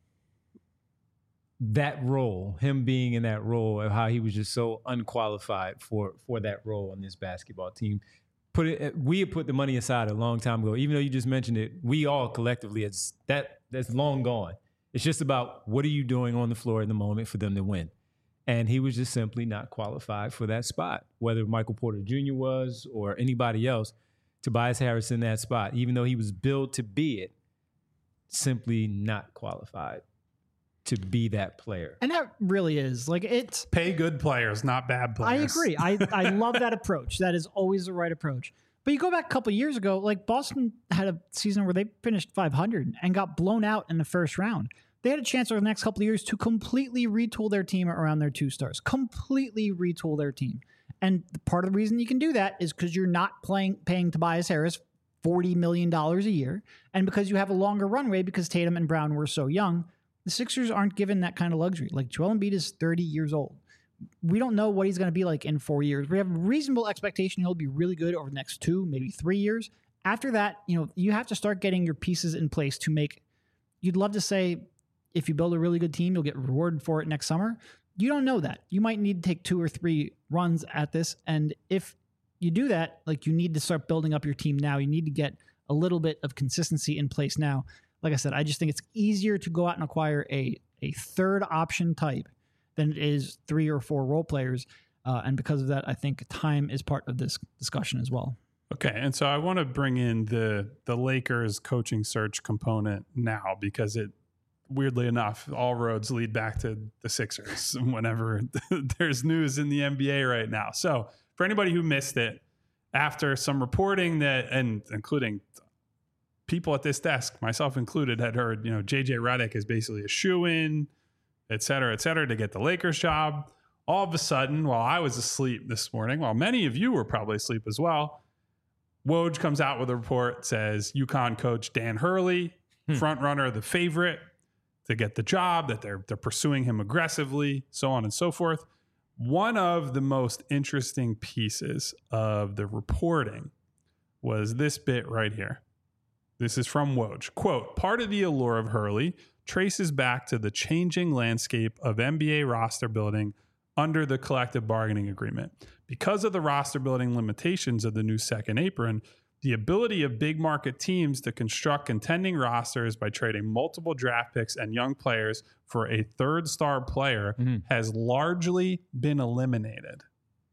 Speaker 4: that role, him being in that role, of how he was just so unqualified for that role on this basketball team. We had put the money aside a long time ago. Even though you just mentioned it, we all collectively, that's long gone. It's just about what are you doing on the floor in the moment for them to win. And he was just simply not qualified for that spot, whether Michael Porter Jr. was or anybody else. Tobias Harris in that spot, even though he was billed to be it, simply not qualified to be that player.
Speaker 2: And that really is like it's
Speaker 3: Pay good players, not bad players.
Speaker 2: I agree. I love that approach. That is always the right approach. But you go back a couple of years ago, like Boston had a season where they finished 500 and got blown out in the first round. They had a chance over the next couple of years to completely retool their team around their two stars. Completely retool their team. And part of the reason you can do that is because you're not paying Tobias Harris $40 million a year, and because you have a longer runway because Tatum and Brown were so young. The Sixers aren't given that kind of luxury. Like Joel Embiid is 30 years old. We don't know what he's going to be like in 4 years. We have a reasonable expectation he'll be really good over the next 2, maybe 3 years. After that, you have to start getting your pieces in place to make. You'd love to say if you build a really good team, you'll get rewarded for it next summer. You don't know that. You might need to take 2 or 3 runs at this. And if you do that, like you need to start building up your team now. You need to get a little bit of consistency in place now. Like I said, I just think it's easier to go out and acquire a third option type than it is 3 or 4 role players. And because of that, I think time is part of this discussion as well.
Speaker 3: Okay, and so I want to bring in the Lakers coaching search component now because it, weirdly enough, all roads lead back to the Sixers whenever there's news in the NBA right now. So for anybody who missed it, after some reporting that, and including people at this desk, myself included, had heard, JJ Redick is basically a shoo-in, et cetera, to get the Lakers job. All of a sudden, while I was asleep this morning, while many of you were probably asleep as well, Woj comes out with a report, says UConn coach Dan Hurley, front runner, the favorite to get the job, that they're pursuing him aggressively, so on and so forth. One of the most interesting pieces of the reporting was this bit right here. This is from Woj. Quote, part of the allure of Hurley traces back to the changing landscape of NBA roster building under the collective bargaining agreement. Because of the roster building limitations of the new second apron, the ability of big market teams to construct contending rosters by trading multiple draft picks and young players for a third star player has largely been eliminated.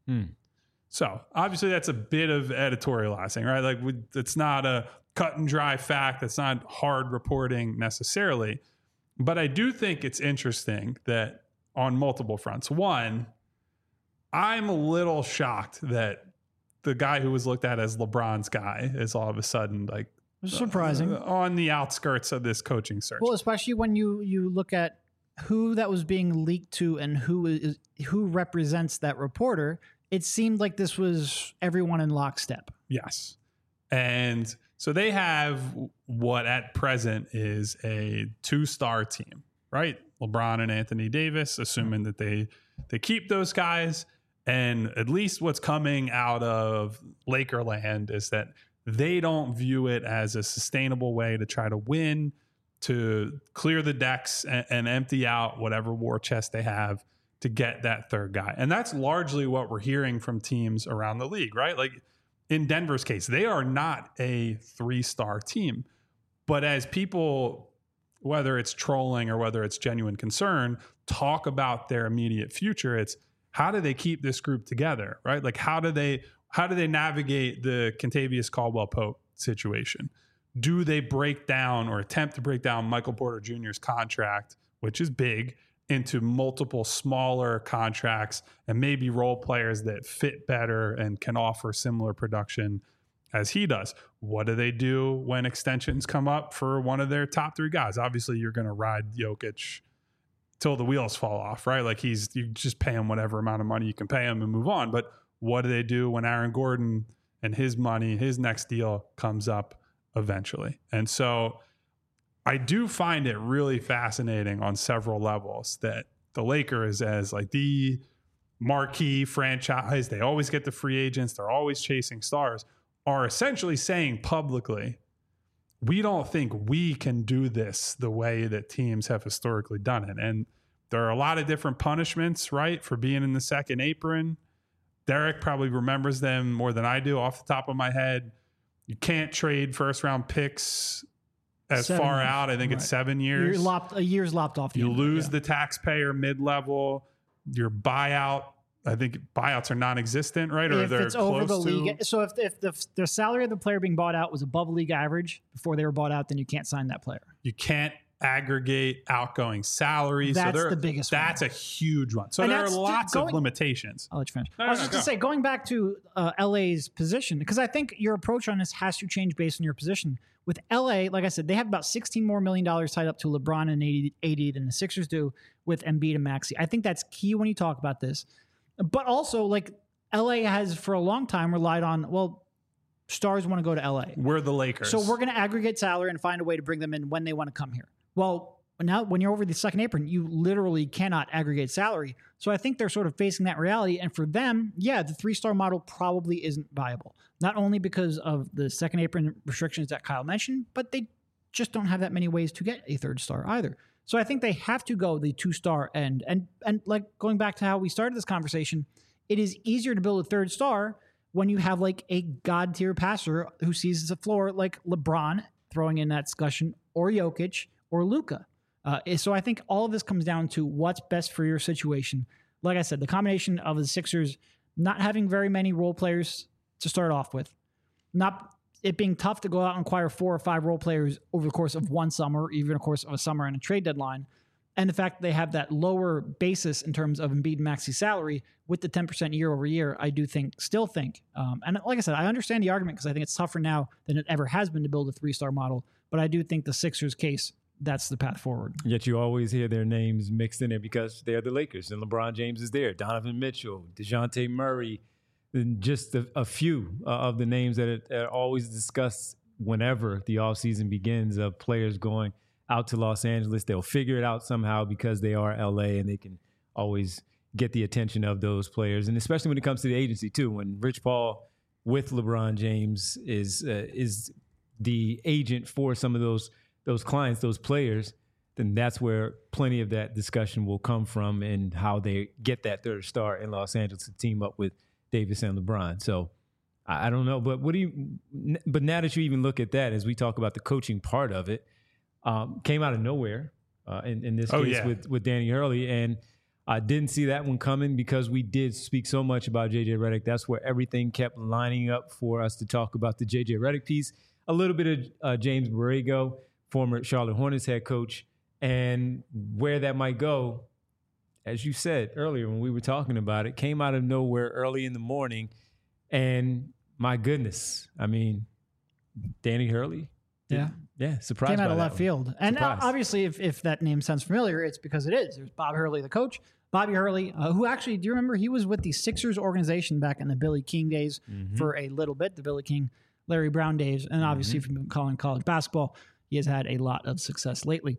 Speaker 3: So obviously that's a bit of editorializing, right? Like it's not a cut and dry fact. It's not hard reporting necessarily. But I do think it's interesting that on multiple fronts. One, I'm a little shocked that the guy who was looked at as LeBron's guy is all of a sudden like
Speaker 2: surprising
Speaker 3: on the outskirts of this coaching search.
Speaker 2: Well, especially when you look at who that was being leaked to and who represents that reporter, it seemed like this was everyone in lockstep.
Speaker 3: Yes. And so they have what at present is a 2-star team, right? LeBron and Anthony Davis, assuming that they keep those guys. And at least what's coming out of Lakerland is that they don't view it as a sustainable way to try to win, to clear the decks and empty out whatever war chest they have to get that third guy. And that's largely what we're hearing from teams around the league, right? Like in Denver's case, they are not a 3-star team. But as people, whether it's trolling or whether it's genuine concern, talk about their immediate future, it's how do they keep this group together, right? Like how do they navigate the Kentavious Caldwell-Pope situation? Do they break down or attempt to break down Michael Porter Jr.'s contract, which is big, into multiple smaller contracts and maybe role players that fit better and can offer similar production as he does? What do they do when extensions come up for one of their top 3 guys? Obviously, you're going to ride Jokic till the wheels fall off, right? Like you just pay him whatever amount of money you can pay him and move on. But what do they do when Aaron Gordon and his money, his next deal comes up eventually. And so I do find it really fascinating on several levels that the Lakers, as like the marquee franchise, they always get the free agents, they're always chasing stars, are essentially saying publicly, we don't think we can do this the way that teams have historically done it. And there are a lot of different punishments, right, for being in the second apron. Derek probably remembers them more than I do off the top of my head. You can't trade first round picks as far out. I think it's 7 years.
Speaker 2: A year's lopped off.
Speaker 3: You lose the taxpayer mid-level. Your buyout, I think buyouts are non-existent, right? Or
Speaker 2: if
Speaker 3: they're
Speaker 2: it's over the
Speaker 3: close to.
Speaker 2: league. So if the salary of the player being bought out was above league average before they were bought out, then you can't sign that player.
Speaker 3: You can't aggregate outgoing salaries.
Speaker 2: That's the biggest one.
Speaker 3: That's a huge one. So there are lots of limitations.
Speaker 2: I'll let you finish. I was just going to say, going back to LA's position, because I think your approach on this has to change based on your position. With LA, like I said, they have about $16 more million tied up to LeBron and AD than the Sixers do with Embiid and Maxey. I think that's key when you talk about this. But also, like, LA has for a long time relied on, well, stars want to go to LA.
Speaker 3: We're the Lakers.
Speaker 2: So we're going to aggregate salary and find a way to bring them in when they want to come here. Well, now when you're over the second apron, you literally cannot aggregate salary. So I think they're sort of facing that reality. And for them, yeah, the 3-star model probably isn't viable. Not only because of the second apron restrictions that Kyle mentioned, but they just don't have that many ways to get a 3rd star either. So I think they have to go the 2-star end. And like going back to how we started this conversation, it is easier to build a 3rd star when you have like a god tier passer who sees the floor like LeBron throwing in that discussion, or Jokic, or Luka. So I think all of this comes down to what's best for your situation. Like I said, the combination of the Sixers not having very many role players to start off with, not it being tough to go out and acquire 4 or 5 role players over the course of one summer, even of course of a summer and a trade deadline, and the fact that they have that lower basis in terms of Embiid and Maxey's salary with the 10% year over year, I do still think, and like I said, I understand the argument because I think it's tougher now than it ever has been to build a 3-star model, but I do think the Sixers case, that's the path forward.
Speaker 4: Yet you always hear their names mixed in there because they're the Lakers and LeBron James is there, Donovan Mitchell, DeJounte Murray, and just a few of the names that are always discussed whenever the offseason begins of players going out to Los Angeles. They'll figure it out somehow because they are LA and they can always get the attention of those players. And especially when it comes to the agency too, when Rich Paul with LeBron James is the agent for some of those clients, those players, then that's where plenty of that discussion will come from and how they get that 3rd star in Los Angeles to team up with Davis and LeBron. So I don't know, but but now that you even look at that, as we talk about the coaching part of it, came out of nowhere in this case with Danny Hurley. And I didn't see that one coming because we did speak so much about JJ Redick. That's where everything kept lining up for us to talk about the JJ Redick piece. A little bit of James Borrego, former Charlotte Hornets head coach, and where that might go, as you said earlier when we were talking about it, came out of nowhere early in the morning. And my goodness, I mean, Danny Hurley. Yeah, surprised.
Speaker 2: Came out of left
Speaker 4: one.
Speaker 2: field. And
Speaker 4: Surprised.
Speaker 2: Obviously, if that name sounds familiar, it's because it is. There's Bob Hurley, the coach. Bobby Hurley, who actually, do you remember, he was with the Sixers organization back in the Billy King days for a little bit, the Billy King, Larry Brown days. And obviously, if you've been calling college basketball, he has had a lot of success lately.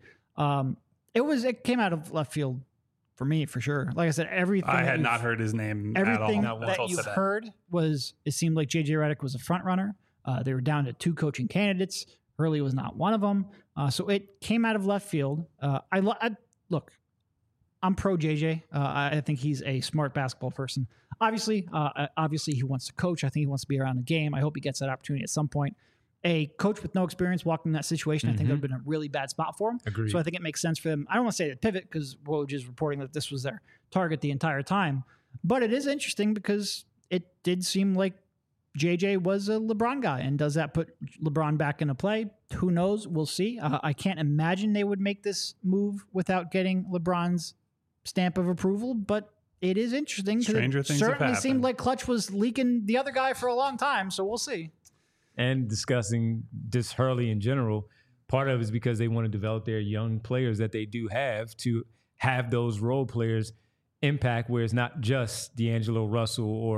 Speaker 2: It came out of left field for me, for sure. Like I said, everything.
Speaker 3: I had not heard his name at all.
Speaker 2: Everything that you've heard was, it seemed like JJ Redick was a front runner. They were down to 2 coaching candidates. Hurley was not one of them. So it came out of left field. Look, I'm pro JJ. I think he's a smart basketball person. Obviously, he wants to coach. I think he wants to be around the game. I hope he gets that opportunity at some point. A coach with no experience walking in that situation, I think that would have been a really bad spot for him.
Speaker 4: Agreed.
Speaker 2: So I think it makes sense for them. I don't want to say the pivot because Woj is reporting that this was their target the entire time. But it is interesting because it did seem like JJ was a LeBron guy. And does that put LeBron back into play? Who knows? We'll see. I can't imagine they would make this move without getting LeBron's stamp of approval, but it is interesting.
Speaker 3: Stranger things have
Speaker 2: certainly
Speaker 3: happened.
Speaker 2: seemed like Clutch was leaking the other guy for a long time, so we'll see.
Speaker 4: And discussing just Hurley in general, part of it is because they want to develop their young players that they do have to have those role players impact where it's not just D'Angelo Russell or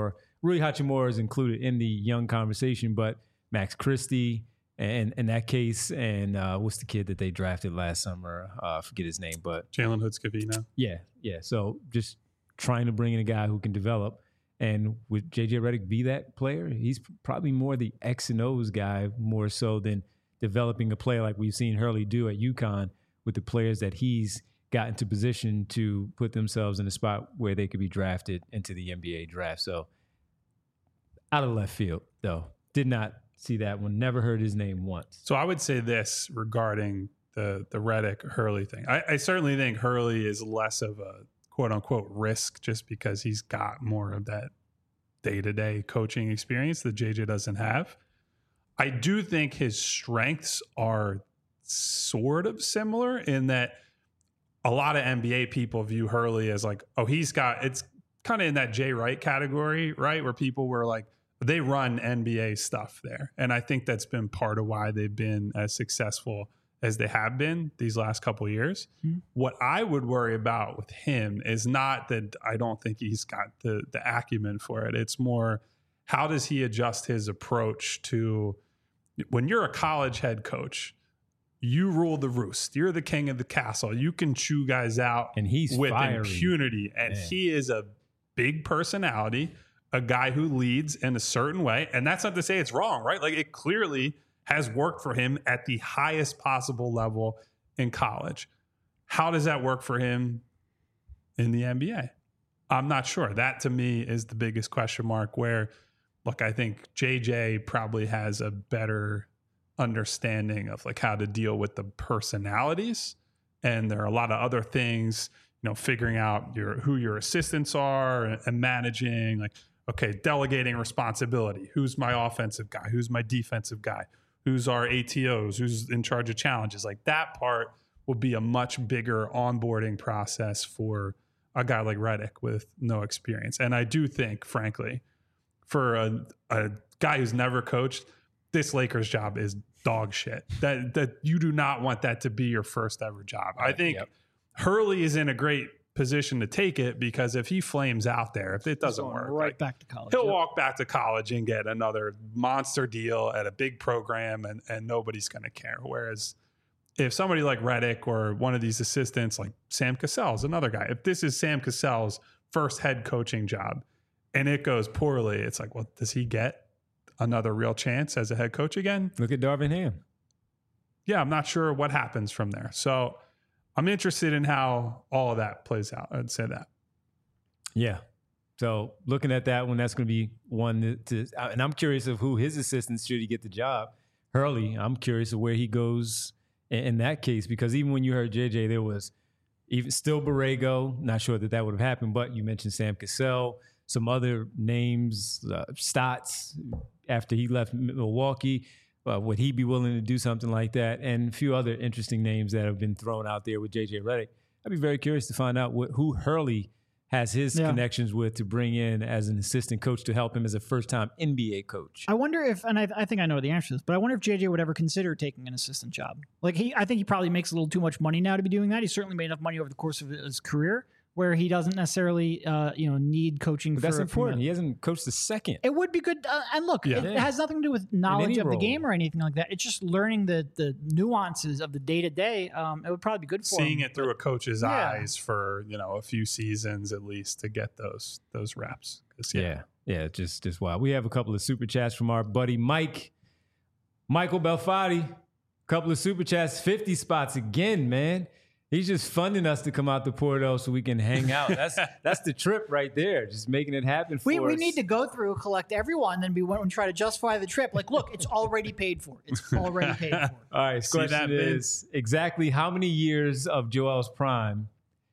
Speaker 4: Rui Hachimura is included in the young conversation, but Max Christie and in that case, and what's the kid that they drafted last summer? I forget his name, but
Speaker 3: Jalen Hood-Scavino.
Speaker 4: Yeah. So just trying to bring in a guy who can develop. And would JJ Redick be that player? He's probably more the X and O's guy, more so than developing a player like we've seen Hurley do at UConn with the players that he's got into position to put themselves in a spot where they could be drafted into the NBA draft. So out of left field, though. Did not see that one. Never heard his name once.
Speaker 3: So I would say this regarding the Redick-Hurley thing. I certainly think Hurley is less of a quote-unquote risk just because he's got more of that day-to-day coaching experience that JJ doesn't have. I do think his strengths are sort of similar in that a lot of NBA people view Hurley as like, oh, it's kind of in that Jay Wright category, right? Where people were like, they run NBA stuff there. And I think that's been part of why they've been as successful as they have been these last couple of years. Mm-hmm. What I would worry about with him is not that I don't think he's got the acumen for it. It's more, how does he adjust his approach to when you're a college head coach, you rule the roost. You're the king of the castle. You can chew guys out
Speaker 4: and he's
Speaker 3: with
Speaker 4: fiery.
Speaker 3: Impunity. And he is a big personality, a guy who leads in a certain way. And that's not to say it's wrong, right? Like it clearly has worked for him at the highest possible level in college. How does that work for him in the NBA? I'm not sure. That to me is the biggest question mark where, look, I think JJ probably has a better understanding of like how to deal with the personalities. And there are a lot of other things, figuring out who your assistants are and managing, like, okay, delegating responsibility. Who's my offensive guy? Who's my defensive guy? Who's our ATOs? Who's in charge of challenges? Like that part will be a much bigger onboarding process for a guy like Redick with no experience. And I do think, frankly, for a guy who's never coached, this Lakers job is dog shit. That you do not want that to be your first ever job. I think Hurley is in a great position to take it because if he flames out there, if it doesn't work,
Speaker 2: back to college.
Speaker 3: He'll walk back to college and get another monster deal at a big program and nobody's going to care. Whereas if somebody like Redick or one of these assistants like Sam Cassell's another guy, if this is Sam Cassell's first head coaching job and it goes poorly, it's like, well, does he get another real chance as a head coach again?
Speaker 4: Look at Darvin Ham.
Speaker 3: Yeah, I'm not sure what happens from there. So I'm interested in how all of that plays out. I'd say that.
Speaker 4: Yeah. So looking at that one, that's going to be one and I'm curious of who his assistants should he get the job. Hurley, I'm curious of where he goes in that case, because even when you heard JJ, there was even still Borrego. Not sure that would have happened, but you mentioned Sam Cassell, some other names, Stotts after he left Milwaukee. Would he be willing to do something like that? And a few other interesting names that have been thrown out there with JJ Redick. I'd be very curious to find out who Hurley has his connections with to bring in as an assistant coach to help him as a first-time NBA coach.
Speaker 2: I wonder if, and I think I know the answer to this, but I wonder if JJ would ever consider taking an assistant job. Like I think he probably makes a little too much money now to be doing that. He certainly made enough money over the course of his career where he doesn't necessarily, need coaching.
Speaker 4: But that's important. He hasn't coached the second.
Speaker 2: It would be good. And look, it has nothing to do with knowledge of the game or anything like that. It's just learning the nuances of the day-to-day. It would probably be good for
Speaker 3: seeing
Speaker 2: him.
Speaker 3: it through a coach's eyes for, a few seasons at least to get those reps.
Speaker 4: Yeah, just wild. We have a couple of super chats from our buddy Michael Belfatti. A couple of super chats, 50 spots again, man. He's just funding us to come out to Porto so we can hang out. That's the trip right there. Just making it happen for us.
Speaker 2: We need to go through, collect everyone, then we went and try to justify the trip. Like, look, it's already paid for. It's already paid for.
Speaker 4: All right, question is exactly how many years of Joel's prime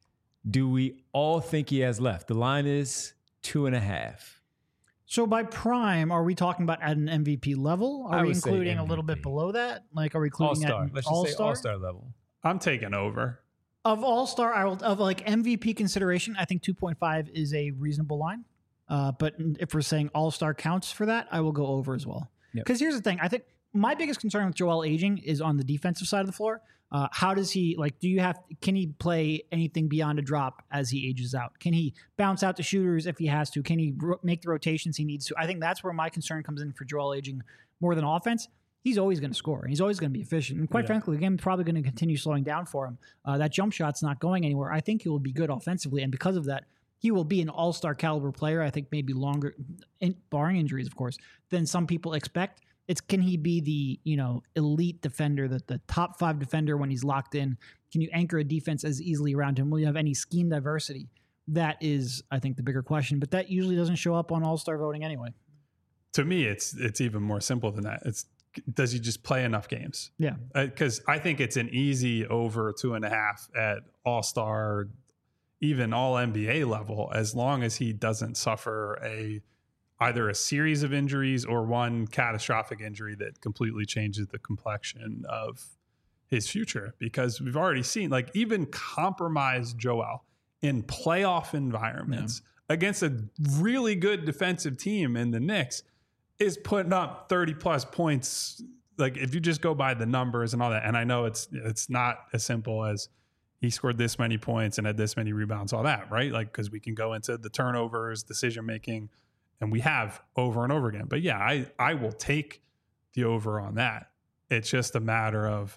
Speaker 4: do we all think he has left? The line is 2.5.
Speaker 2: So by prime, are we talking about at an MVP level? Are we including a little bit below that? Like, are we including
Speaker 4: All-Star? Let's just say All-Star level.
Speaker 3: I'm taking over.
Speaker 2: Of All-Star, of like MVP consideration, I think 2.5 is a reasonable line. But if we're saying All-Star counts for that, I will go over as well. Because here's the thing. I think my biggest concern with Joel aging is on the defensive side of the floor. How does he can he play anything beyond a drop as he ages out? Can he bounce out to shooters if he has to? Can he make the rotations he needs to? I think that's where my concern comes in for Joel aging more than offense. He's always going to score. He's always going to be efficient. And quite frankly, the game's probably going to continue slowing down for him. That jump shot's not going anywhere. I think he will be good offensively. And because of that, he will be an all-star caliber player. I think maybe longer, barring injuries, of course, than some people expect. Can he be the elite defender, the top 5 defender when he's locked in? Can you anchor a defense as easily around him? Will you have any scheme diversity? That is, I think, the bigger question. But that usually doesn't show up on all-star voting anyway.
Speaker 3: To me, it's even more simple than that. Does he just play enough games?
Speaker 2: Yeah.
Speaker 3: Because I think it's an easy over 2.5 at all-star, even all NBA level, as long as he doesn't suffer either a series of injuries or one catastrophic injury that completely changes the complexion of his future. Because we've already seen, even compromised Joel in playoff environments against a really good defensive team in the Knicks is putting up 30 plus points. If you just go by the numbers and all that, and I know it's not as simple as he scored this many points and had this many rebounds, all that, right? Because we can go into the turnovers, decision making, and we have over and over again. But yeah, I will take the over on that. It's just a matter of,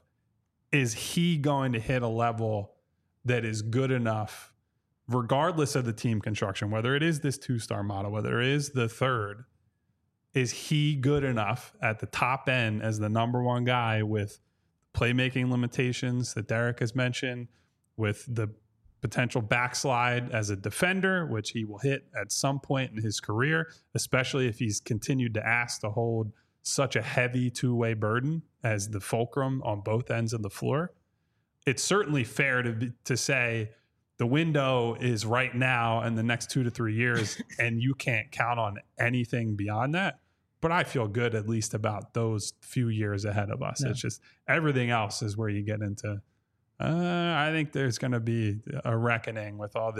Speaker 3: is he going to hit a level that is good enough, regardless of the team construction, whether it is this 2-star model, whether it is the third, is he good enough at the top end as the number one guy with playmaking limitations that Derek has mentioned, with the potential backslide as a defender, which he will hit at some point in his career, especially if he's continued to ask to hold such a heavy two-way burden as the fulcrum on both ends of the floor. It's certainly fair to say the window is right now and the next 2 to 3 years, and you can't count on anything beyond that. But I feel good at least about those few years ahead of us. Yeah. It's just everything else is where you get into, I think there's going to be a reckoning with all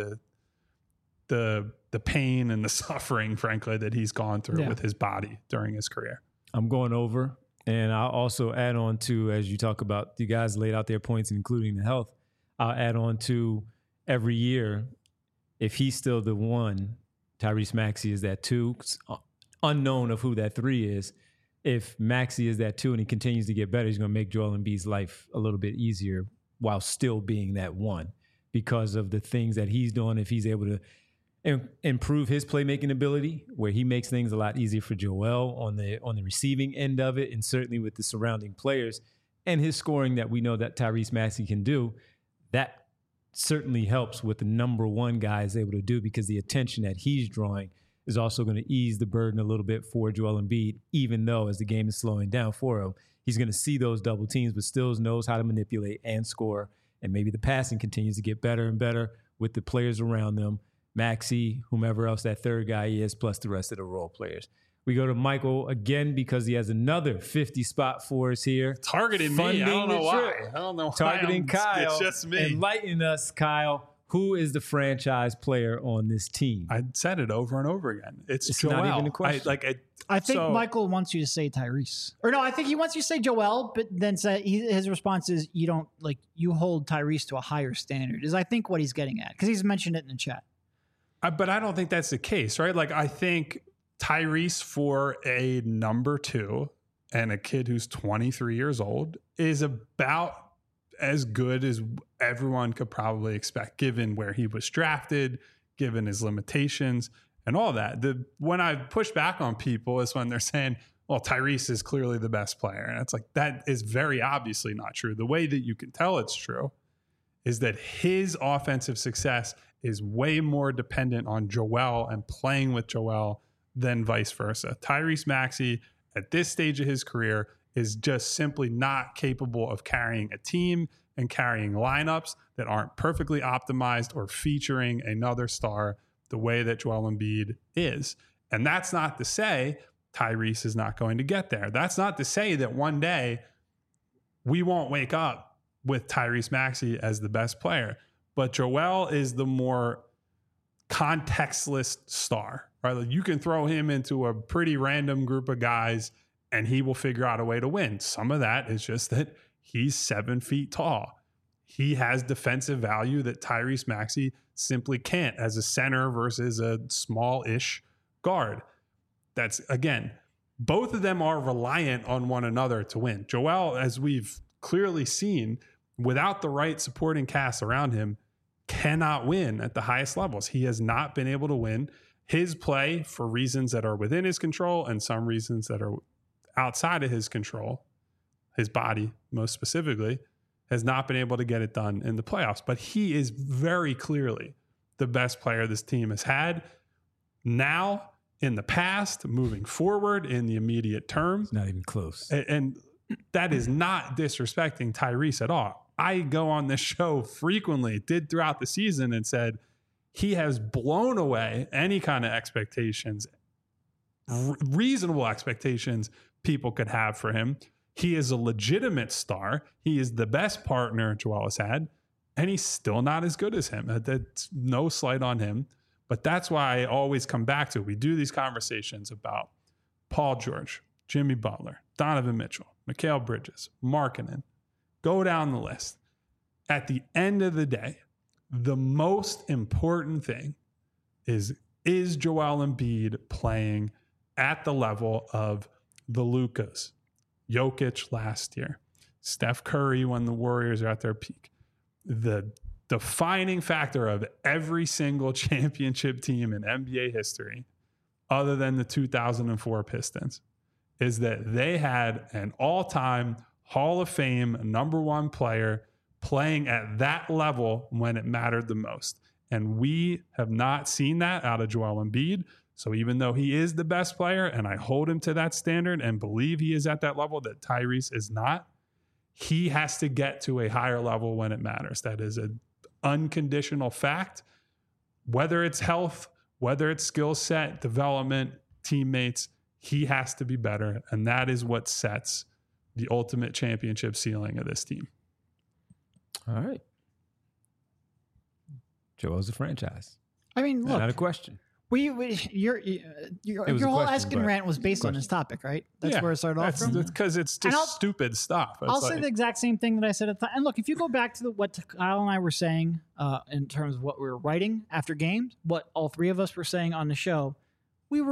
Speaker 3: the pain and the suffering, frankly, that he's gone through with his body during his career.
Speaker 4: I'm going over. And I'll also add on to, as you talk about, the guys laid out their points, including the health, I'll add on to every year, if he's still the 1, Tyrese Maxey is that 2, unknown of who that 3 is. If Maxey is that 2 and he continues to get better, he's going to make Joel Embiid's life a little bit easier while still being that 1 because of the things that he's doing. If he's able to improve his playmaking ability, where he makes things a lot easier for Joel on the receiving end of it, and certainly with the surrounding players, and his scoring that we know that Tyrese Maxey can do, that certainly helps with the number 1 guy is able to do, because the attention that he's drawing is also going to ease the burden a little bit for Joel Embiid, even though as the game is slowing down for him, he's going to see those double teams, but still knows how to manipulate and score. And maybe the passing continues to get better and better with the players around them, Maxey, whomever else that third guy is, plus the rest of the role players. We go to Michael again because he has another 50 spot for us here.
Speaker 3: Targeting me. I don't know why. I don't know why.
Speaker 4: Targeting Kyle.
Speaker 3: It's just me.
Speaker 4: Enlighten us, Kyle. Who is the franchise player on this team?
Speaker 3: I said it over and over again. It's Joel.
Speaker 4: Not even a question.
Speaker 2: I think Michael wants you to say Tyrese. Or no, I think he wants you to say Joel, but then his response is you hold Tyrese to a higher standard, is I think what he's getting at, because he's mentioned it in the chat.
Speaker 3: But I don't think that's the case, right? I think Tyrese, for a number 2 and a kid who's 23 years old, is about as good as everyone could probably expect, given where he was drafted, given his limitations and all that. When I push back on people is when they're saying, well, Tyrese is clearly the best player. And it's that is very obviously not true. The way that you can tell it's true is that his offensive success is way more dependent on Joel and playing with Joel than vice versa. Tyrese Maxey, at this stage of his career, is just simply not capable of carrying a team and carrying lineups that aren't perfectly optimized or featuring another star the way that Joel Embiid is. And that's not to say Tyrese is not going to get there. That's not to say that one day we won't wake up with Tyrese Maxey as the best player. But Joel is the more contextless star, right? You can throw him into a pretty random group of guys and he will figure out a way to win. Some of that is just that He's 7 feet tall. He has defensive value that Tyrese Maxey simply can't as a center versus a small-ish guard. That's, again, both of them are reliant on one another to win. Joel, as we've clearly seen, without the right supporting cast around him, cannot win at the highest levels. He has not been able to win. His play, for reasons that are within his control and some reasons that are outside of his control, his body most specifically, has not been able to get it done in the playoffs. But he is very clearly the best player this team has had now, in the past, moving forward, in the immediate term.
Speaker 4: It's not even close.
Speaker 3: And that is not disrespecting Tyrese at all. I go on this show frequently, did throughout the season, and said he has blown away any kind of expectations, reasonable expectations people could have for him. He is a legitimate star. He is the best partner Joel has had, and he's still not as good as him. That's no slight on him, but that's why I always come back to it. We do these conversations about Paul George, Jimmy Butler, Donovan Mitchell, Mikal Bridges, Markkanen. Go down the list. At the end of the day, the most important thing is Joel Embiid playing at the level of the Lukas, Jokic last year, Steph Curry when the Warriors are at their peak. The defining factor of every single championship team in NBA history, other than the 2004 Pistons, is that they had an all-time Hall of Fame #1 player playing at that level when it mattered the most. And we have not seen that out of Joel Embiid. So even though he is the best player, and I hold him to that standard and believe he is at that level that Tyrese is not, he has to get to a higher level when it matters. That is an unconditional fact. Whether it's health, whether it's skill set, development, teammates, he has to be better. And that is what sets the ultimate championship ceiling of this team.
Speaker 4: All right. Joel's a franchise.
Speaker 2: I mean, look,
Speaker 4: Not a question.
Speaker 2: your whole
Speaker 4: question,
Speaker 2: Eskin
Speaker 4: but-
Speaker 2: rant was based on this topic, right? That's where it started off from.
Speaker 3: Because it's just stupid stuff. It's
Speaker 2: I'll say the exact same thing that I said at the time. And look, if you go back to what Kyle and I were saying in terms of what we were writing after games, what all three of us were saying on the show, we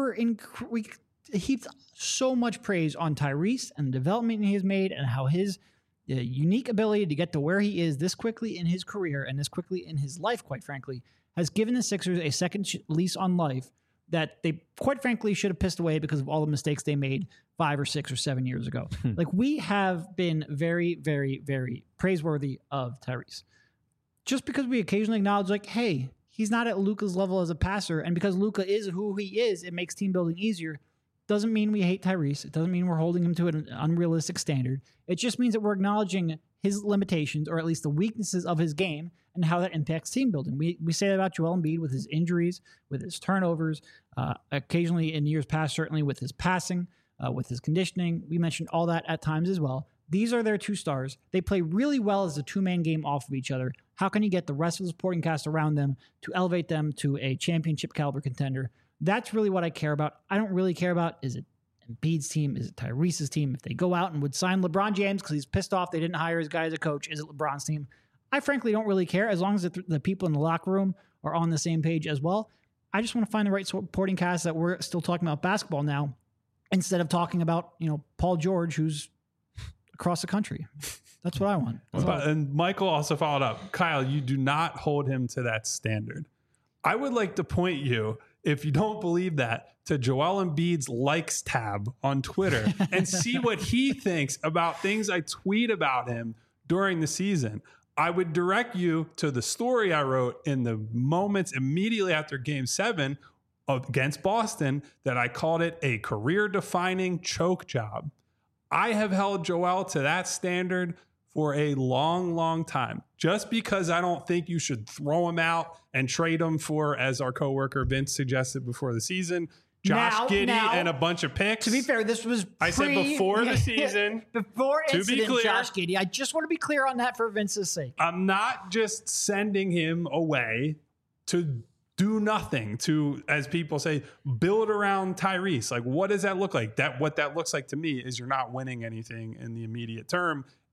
Speaker 2: heaped so much praise on Tyrese and the development he has made and how his unique ability to get to where he is this quickly in his career and this quickly in his life, quite frankly, has given the Sixers a second lease on life that they, quite frankly, should have pissed away because of all the mistakes they made 5 or 6 or 7 years ago. Like, we have been very, very, very praiseworthy of Tyrese. Just because we occasionally acknowledge, like, hey, he's not at Luka's level as a passer, and because Luka is who he is, it makes team building easier. Doesn't mean we hate Tyrese. It doesn't mean we're holding him to an unrealistic standard. It just means that we're acknowledging his limitations, or at least the weaknesses of his game, and how that impacts team building. We say that about Joel Embiid with his injuries, with his turnovers, occasionally in years past, certainly with his passing, with his conditioning. We mentioned all that at times as well. These are their two stars. They play really well as a two-man game off of each other. How can you get the rest of the supporting cast around them to elevate them to a championship caliber contender? That's really what I care about. I don't really care about, is it Embiid's team? Is it Tyrese's team? If they go out and would sign LeBron James because he's pissed off they didn't hire his guy as a coach, is it LeBron's team? I frankly don't really care as long as the people in the locker room are on the same page as well. I just want to find the right supporting cast that we're still talking about basketball now instead of talking about, Paul George, who's across the country. That's what I want.
Speaker 3: And Michael also followed up. Kyle, you do not hold him to that standard. I would like to point you, if you don't believe that, to Joel Embiid's likes tab on Twitter and see what he thinks about things I tweet about him during the season. I would direct you to the story I wrote in the moments immediately after Game 7 against Boston that I called it a career-defining choke job. I have held Joel to that standard for a long, long time. Just because I don't think you should throw him out and trade him for, as our coworker Vince suggested before the season, Josh Giddey and a bunch of picks.
Speaker 2: To be fair, this was
Speaker 3: I said before the season.
Speaker 2: Before
Speaker 3: to be clear,
Speaker 2: Josh Giddey. I just want to be clear on that for Vince's sake.
Speaker 3: I'm not just sending him away to do nothing, to, as people say, build around Tyrese. Like, what does that look like? What that looks like to me is you're not winning anything in the immediate term.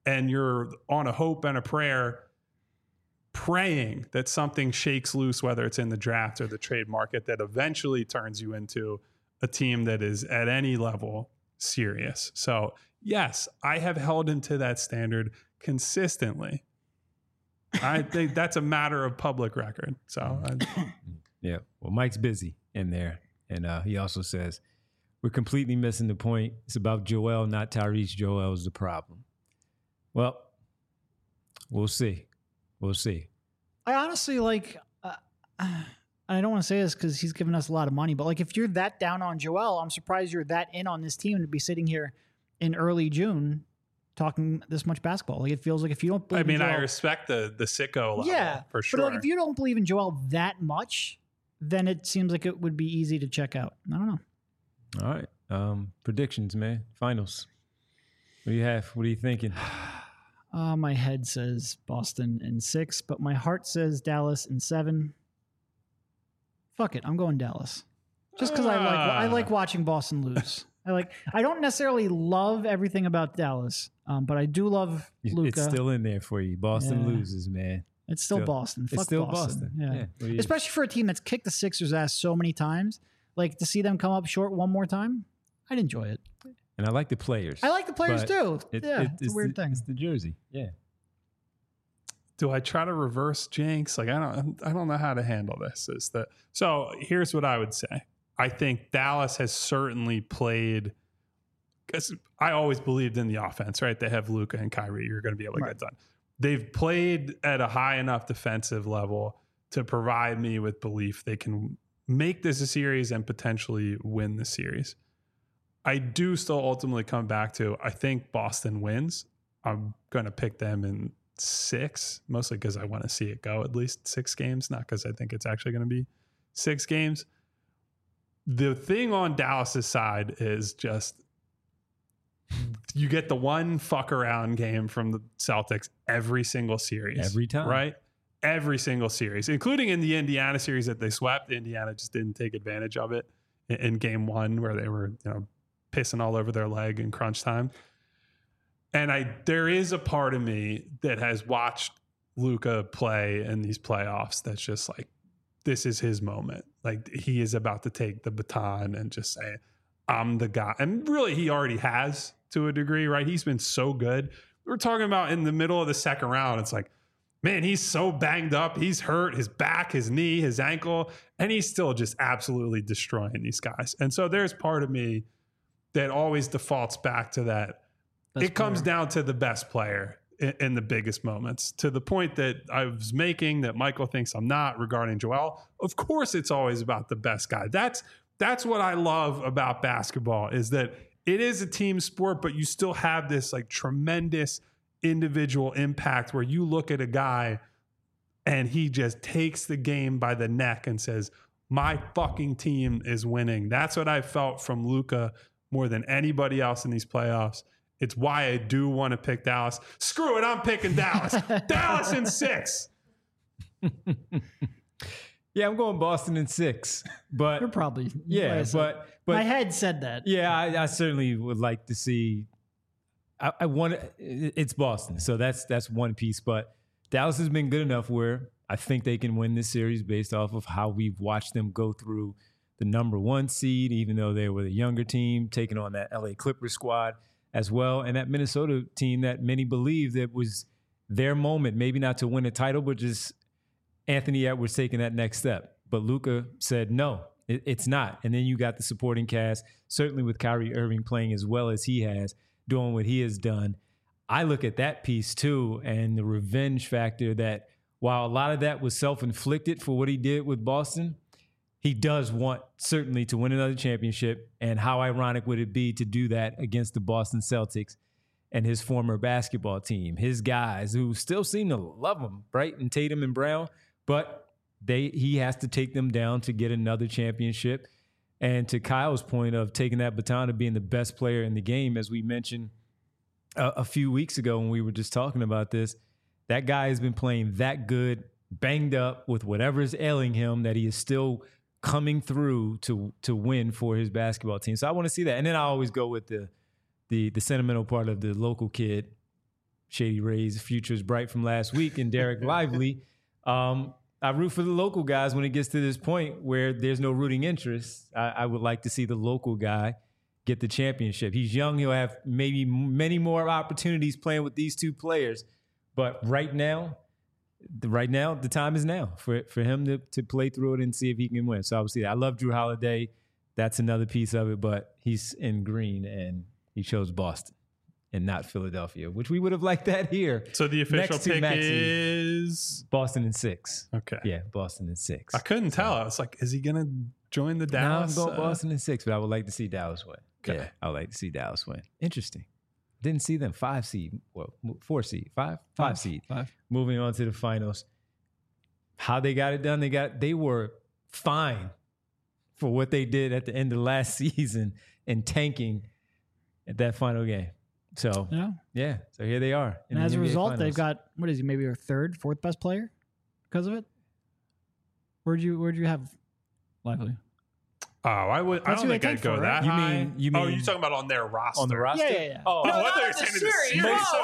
Speaker 3: and you're on a hope and a prayer, praying that something shakes loose, whether it's in the draft or the trade market, that eventually turns you into a team that is at any level serious. So yes, I have held him to that standard consistently. I think that's a matter of public record. So
Speaker 4: yeah, well, Mike's busy in there. And he also says, we're completely missing the point. It's about Joel, not Tyrese. Joel is the problem. Well, we'll see. We'll see.
Speaker 2: I honestly I don't want to say this because he's given us a lot of money, but like if you're that down on Joel, I'm surprised you're that in on this team to be sitting here in early June talking this much basketball. Like it feels like if you don't believe in Joel,
Speaker 3: I respect the sicko level, for sure.
Speaker 2: But like if you don't believe in Joel that much, then it seems like it would be easy to check out. I don't know.
Speaker 4: All right. Predictions, man. Finals. What do you have? What are you thinking?
Speaker 2: My head says Boston in 6, but my heart says Dallas in 7. Fuck it, I'm going Dallas. Just because I like watching Boston lose. I don't necessarily love everything about Dallas, but I do love Luka.
Speaker 4: It's still in there for you. Boston loses, man.
Speaker 2: It's still Boston. Fuck
Speaker 4: it's still
Speaker 2: Boston.
Speaker 4: Yeah.
Speaker 2: Especially for a team that's kicked the Sixers' ass so many times. Like to see them come up short one more time, I'd enjoy it.
Speaker 4: And I like the players.
Speaker 2: I like the players too. It's a weird thing.
Speaker 4: It's the jersey. Yeah.
Speaker 3: Do I try to reverse jinx? Like I don't know how to handle this. So here's what I would say. I think Dallas has certainly played, because I always believed in the offense, right? They have Luka and Kyrie. You're going to be able to get done. They've played at a high enough defensive level to provide me with belief they can make this a series and potentially win the series. I do still ultimately come back to, I think Boston wins. I'm going to pick them in 6, mostly because I want to see it go at least 6 games, not because I think it's actually going to be 6 games. The thing on Dallas's side is just you get the one fuck around game from the Celtics every single series.
Speaker 4: Every time.
Speaker 3: Right? Every single series, including in the Indiana series that they swept. Indiana just didn't take advantage of it in game 1 where they were, pissing all over their leg in crunch time. And there is a part of me that has watched Luka play in these playoffs that's just like, this is his moment. Like he is about to take the baton and just say, I'm the guy. And really he already has to a degree, right? He's been so good. We're talking about in the middle of the second round. It's like, man, he's so banged up. He's hurt, his back, his knee, his ankle, and he's still just absolutely destroying these guys. And so there's part of me that always defaults back to that. It comes down to the best player in the biggest moments, to the point that I was making that Michael thinks I'm not regarding Joel. Of course, it's always about the best guy. That's what I love about basketball, is that it is a team sport, but you still have this like tremendous individual impact where you look at a guy and he just takes the game by the neck and says, my fucking team is winning. That's what I felt from Luka more than anybody else in these playoffs. It's why I do want to pick Dallas. Screw it, I'm picking Dallas. Dallas in 6.
Speaker 4: Yeah, I'm going Boston in 6. But
Speaker 2: you're probably
Speaker 4: but
Speaker 2: my head said that.
Speaker 4: Yeah, I certainly would like to see. I want it's Boston, so that's one piece. But Dallas has been good enough where I think they can win this series based off of how we've watched them go through the number 1 seed, even though they were the younger team, taking on that LA Clippers squad as well, and that Minnesota team that many believe that was their moment, maybe not to win a title, but just Anthony Edwards taking that next step. But Luka said, no, it's not. And then you got the supporting cast, certainly with Kyrie Irving playing as well as he has, doing what he has done. I look at that piece too, and the revenge factor that while a lot of that was self-inflicted for what he did with Boston, he does want certainly to win another championship. And how ironic would it be to do that against the Boston Celtics and his former basketball team, his guys who still seem to love him, Brighton, Tatum, and Brown, but he has to take them down to get another championship. And to Kyle's point of taking that baton of being the best player in the game, as we mentioned a few weeks ago when we were just talking about this, that guy has been playing that good, banged up with whatever is ailing him, that he is still coming through to win for his basketball team. So I want to see that. And then I always go with the sentimental part of the local kid Shady Rays' future is bright from last week, and Derek Lively. I root for the local guys when it gets to this point where there's no rooting interest. I would like to see the local guy get the championship. He's young. He'll have maybe many more opportunities playing with these two players. But right now, the time is now for him to play through it and see if he can win. So obviously, I love Drew Holiday. That's another piece of it. But he's in green, and he chose Boston and not Philadelphia, which we would have liked that here.
Speaker 3: So the official pick is
Speaker 4: Boston in 6.
Speaker 3: Okay.
Speaker 4: Yeah, Boston in 6.
Speaker 3: I couldn't tell. I was like, is he going to join the Dallas?
Speaker 4: No, I'm going Boston in 6, but I would like to see Dallas win.
Speaker 3: Okay.
Speaker 4: Yeah, I would like to see Dallas win. Interesting. Didn't see them 5 seed. Well, 4 seed. 5 seed.
Speaker 2: 5.
Speaker 4: Moving on to the finals. How they got it done, they were fine for what they did at the end of last season and tanking at that final game. So, yeah. So here they are.
Speaker 2: And as a result, they've got, what is he, maybe our 3rd, 4th best player because of it? Where'd you have Lively?
Speaker 3: Oh, I don't think I'd go that high.
Speaker 4: You mean?
Speaker 3: Oh, you're talking about on their roster?
Speaker 4: On the roster?
Speaker 2: Yeah.
Speaker 4: Oh,
Speaker 3: I thought you were saying in the series.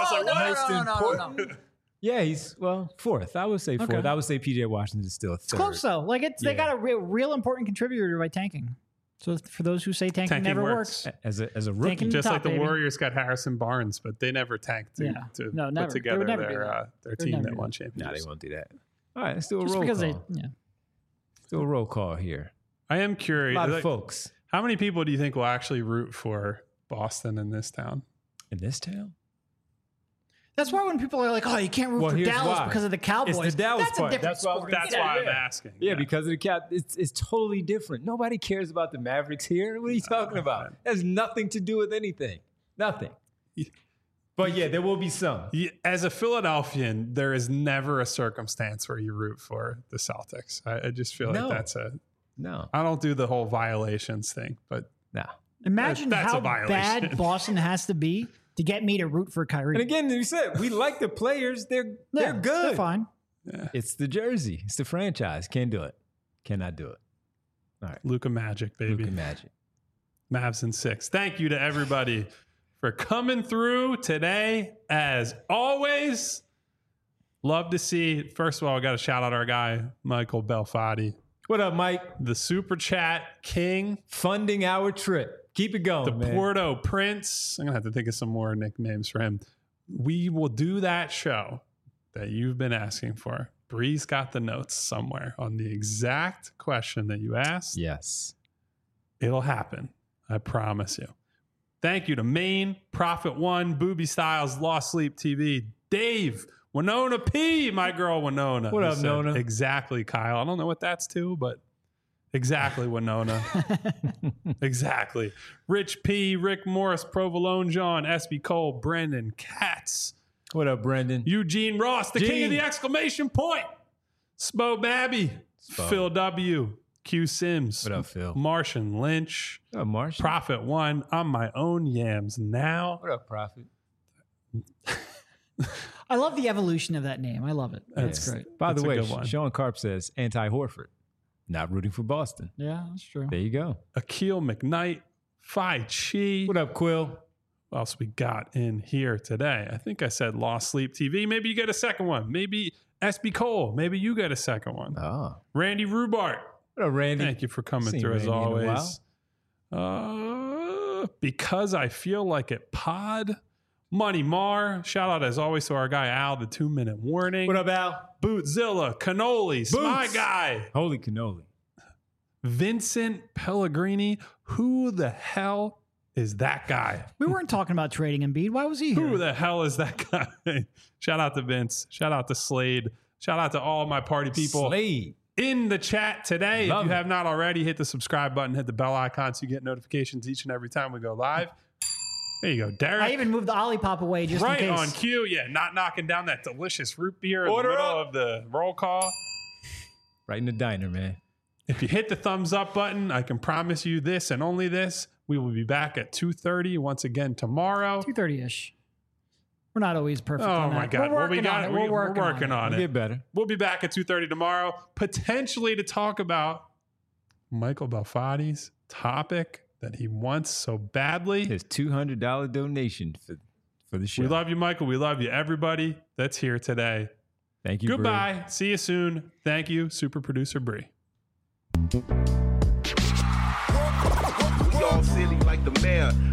Speaker 3: I was like,
Speaker 2: No.
Speaker 4: Yeah, he's 4th. I would say 4th.
Speaker 2: Okay.
Speaker 4: I would say PJ Washington is still 3rd.
Speaker 2: It's close though. Like they got a real important contributor by tanking. So for those who say tanking never works,
Speaker 4: as a rookie,
Speaker 2: Tanking
Speaker 3: just
Speaker 2: top,
Speaker 3: like the
Speaker 2: baby.
Speaker 3: Warriors got Harrison Barnes, but they never tanked to
Speaker 2: never.
Speaker 3: put together
Speaker 2: They would never do
Speaker 3: their
Speaker 2: They'd
Speaker 3: team
Speaker 2: never
Speaker 3: that
Speaker 2: do
Speaker 3: won
Speaker 2: that.
Speaker 3: championships.
Speaker 4: no, they won't do that. All right, let's do a
Speaker 2: just
Speaker 4: roll
Speaker 2: because
Speaker 4: call. Let's do a roll call here.
Speaker 3: I am
Speaker 4: A
Speaker 3: curious.
Speaker 4: lot of folks
Speaker 3: How many people do you think will actually root for Boston in this town?
Speaker 4: in this town.
Speaker 2: That's why when people are like, "Oh, you can't root for
Speaker 4: here's
Speaker 2: Dallas
Speaker 4: why.
Speaker 2: because of the Cowboys,"
Speaker 4: It's the Dallas
Speaker 2: that's
Speaker 4: part.
Speaker 2: a different
Speaker 4: That's what I was
Speaker 2: sport.
Speaker 4: gonna
Speaker 3: That's why I'm asking.
Speaker 4: Yeah, because of the cap, it's totally different. Nobody cares about the Mavericks here. What are you talking about? It has nothing to do with anything. Nothing. But yeah, there will be some.
Speaker 3: As a Philadelphian, there is never a circumstance where you root for the Celtics. I just feel
Speaker 4: No.
Speaker 3: like that's
Speaker 4: No.
Speaker 3: I don't do the whole violations thing, but
Speaker 4: No.
Speaker 2: Imagine
Speaker 3: That's
Speaker 2: how
Speaker 3: a violation.
Speaker 2: bad Boston has to be to get me to root for Kyrie.
Speaker 4: And again, you said we like the players. They're
Speaker 2: Yeah,
Speaker 4: good.
Speaker 2: They're fine.
Speaker 4: It's the jersey. It's the franchise. Can't do it. Cannot do it. All right.
Speaker 3: Luka Magic, baby.
Speaker 4: Luka Magic.
Speaker 3: Mavs in 6. Thank you to everybody for coming through today. As always, love to see. First of all, I got to shout out our guy, Michael Belfatti,
Speaker 4: What up, Mike?
Speaker 3: the Super Chat King,
Speaker 4: Funding our trip. Keep it going,
Speaker 3: the
Speaker 4: man.
Speaker 3: Porto Prince. I'm going to have to think of some more nicknames for him. We will do that show that you've been asking for. Bree's got the notes somewhere on the exact question that you asked.
Speaker 4: Yes.
Speaker 3: It'll happen. I promise you. Thank you to Maine, Prophet One, Booby Styles, Lost Sleep TV, Dave, Winona P, my girl Winona.
Speaker 4: What
Speaker 3: who
Speaker 4: up,
Speaker 3: said,
Speaker 4: Nona?
Speaker 3: Exactly, Kyle. I don't know what that's to, but exactly, Winona. Exactly. Rich P, Rick Morris, Provolone John, SB Cole, Brendan Katz,
Speaker 4: What up, Brendan?
Speaker 3: Eugene Ross, the king of
Speaker 4: Gene.
Speaker 3: the exclamation point, Spo Babby,
Speaker 4: Spo.
Speaker 3: Phil W, Q Sims,
Speaker 4: What up, Phil?
Speaker 3: Martian Lynch,
Speaker 4: What up, Marsh?
Speaker 3: Prophet One. I'm my own yams now.
Speaker 4: What up, Prophet?
Speaker 2: I love the evolution of that name. I love it. That's
Speaker 3: Yeah.
Speaker 2: great.
Speaker 4: By
Speaker 3: That's
Speaker 4: the
Speaker 3: a
Speaker 4: way,
Speaker 3: good one.
Speaker 4: Sean Karp says anti-Horford. Not rooting for Boston.
Speaker 2: Yeah, that's true.
Speaker 4: There you go.
Speaker 3: Akil McKnight, Phi Chi.
Speaker 4: What up, Quill?
Speaker 3: What else we got in here today? I think I said Lost Sleep TV. Maybe you get a second one. Maybe SB Cole. Maybe you get a second one.
Speaker 4: Oh.
Speaker 3: Randy Rubart.
Speaker 4: What up, Randy?
Speaker 3: Thank you for coming
Speaker 4: Seen
Speaker 3: through as
Speaker 4: Randy in a
Speaker 3: always. Because I feel like it pod. Money Mar. Shout out as always to our guy Al, the 2-minute warning.
Speaker 4: What up, Al?
Speaker 3: Bootzilla, Cannolis, my guy.
Speaker 4: Holy cannoli.
Speaker 3: Vincent Pellegrini. Who the hell is that guy?
Speaker 2: We weren't talking about trading Embiid. Why was he here?
Speaker 3: Who the hell is that guy? Shout out to Vince. Shout out to Slade. Shout out to all my party people
Speaker 4: Slade.
Speaker 3: in the chat today.
Speaker 4: Love
Speaker 3: if you
Speaker 4: it.
Speaker 3: have not already, hit the subscribe button, hit the bell icon so you get notifications each and every time we go live. There you go, Derek.
Speaker 2: I even moved the Olipop away just
Speaker 3: right
Speaker 2: in case.
Speaker 3: on cue. Yeah, not knocking down that delicious root beer
Speaker 4: Order
Speaker 3: in the middle
Speaker 4: up.
Speaker 3: of the roll call.
Speaker 4: Right in the diner, man.
Speaker 3: If you hit the thumbs up button, I can promise you this and only this. We will be back at 2:30 once again tomorrow.
Speaker 2: 2:30-ish. We're not always perfect.
Speaker 3: Oh
Speaker 2: on
Speaker 3: my
Speaker 2: that.
Speaker 3: God.
Speaker 2: We're
Speaker 3: Well, we
Speaker 2: working
Speaker 3: got
Speaker 2: on
Speaker 3: it.
Speaker 2: it. We're working on
Speaker 3: on
Speaker 4: We'll
Speaker 3: it.
Speaker 4: get better.
Speaker 3: We'll be back at 2:30 tomorrow, potentially to talk about Michael Belfatti's topic that he wants so badly.
Speaker 4: His $200 donation for for the show.
Speaker 3: We love you, Michael. We love you, everybody that's here today.
Speaker 4: Thank you.
Speaker 3: Goodbye.
Speaker 4: Bree.
Speaker 3: See you soon. Thank you, super producer Bree.
Speaker 5: We all silly like the mayor.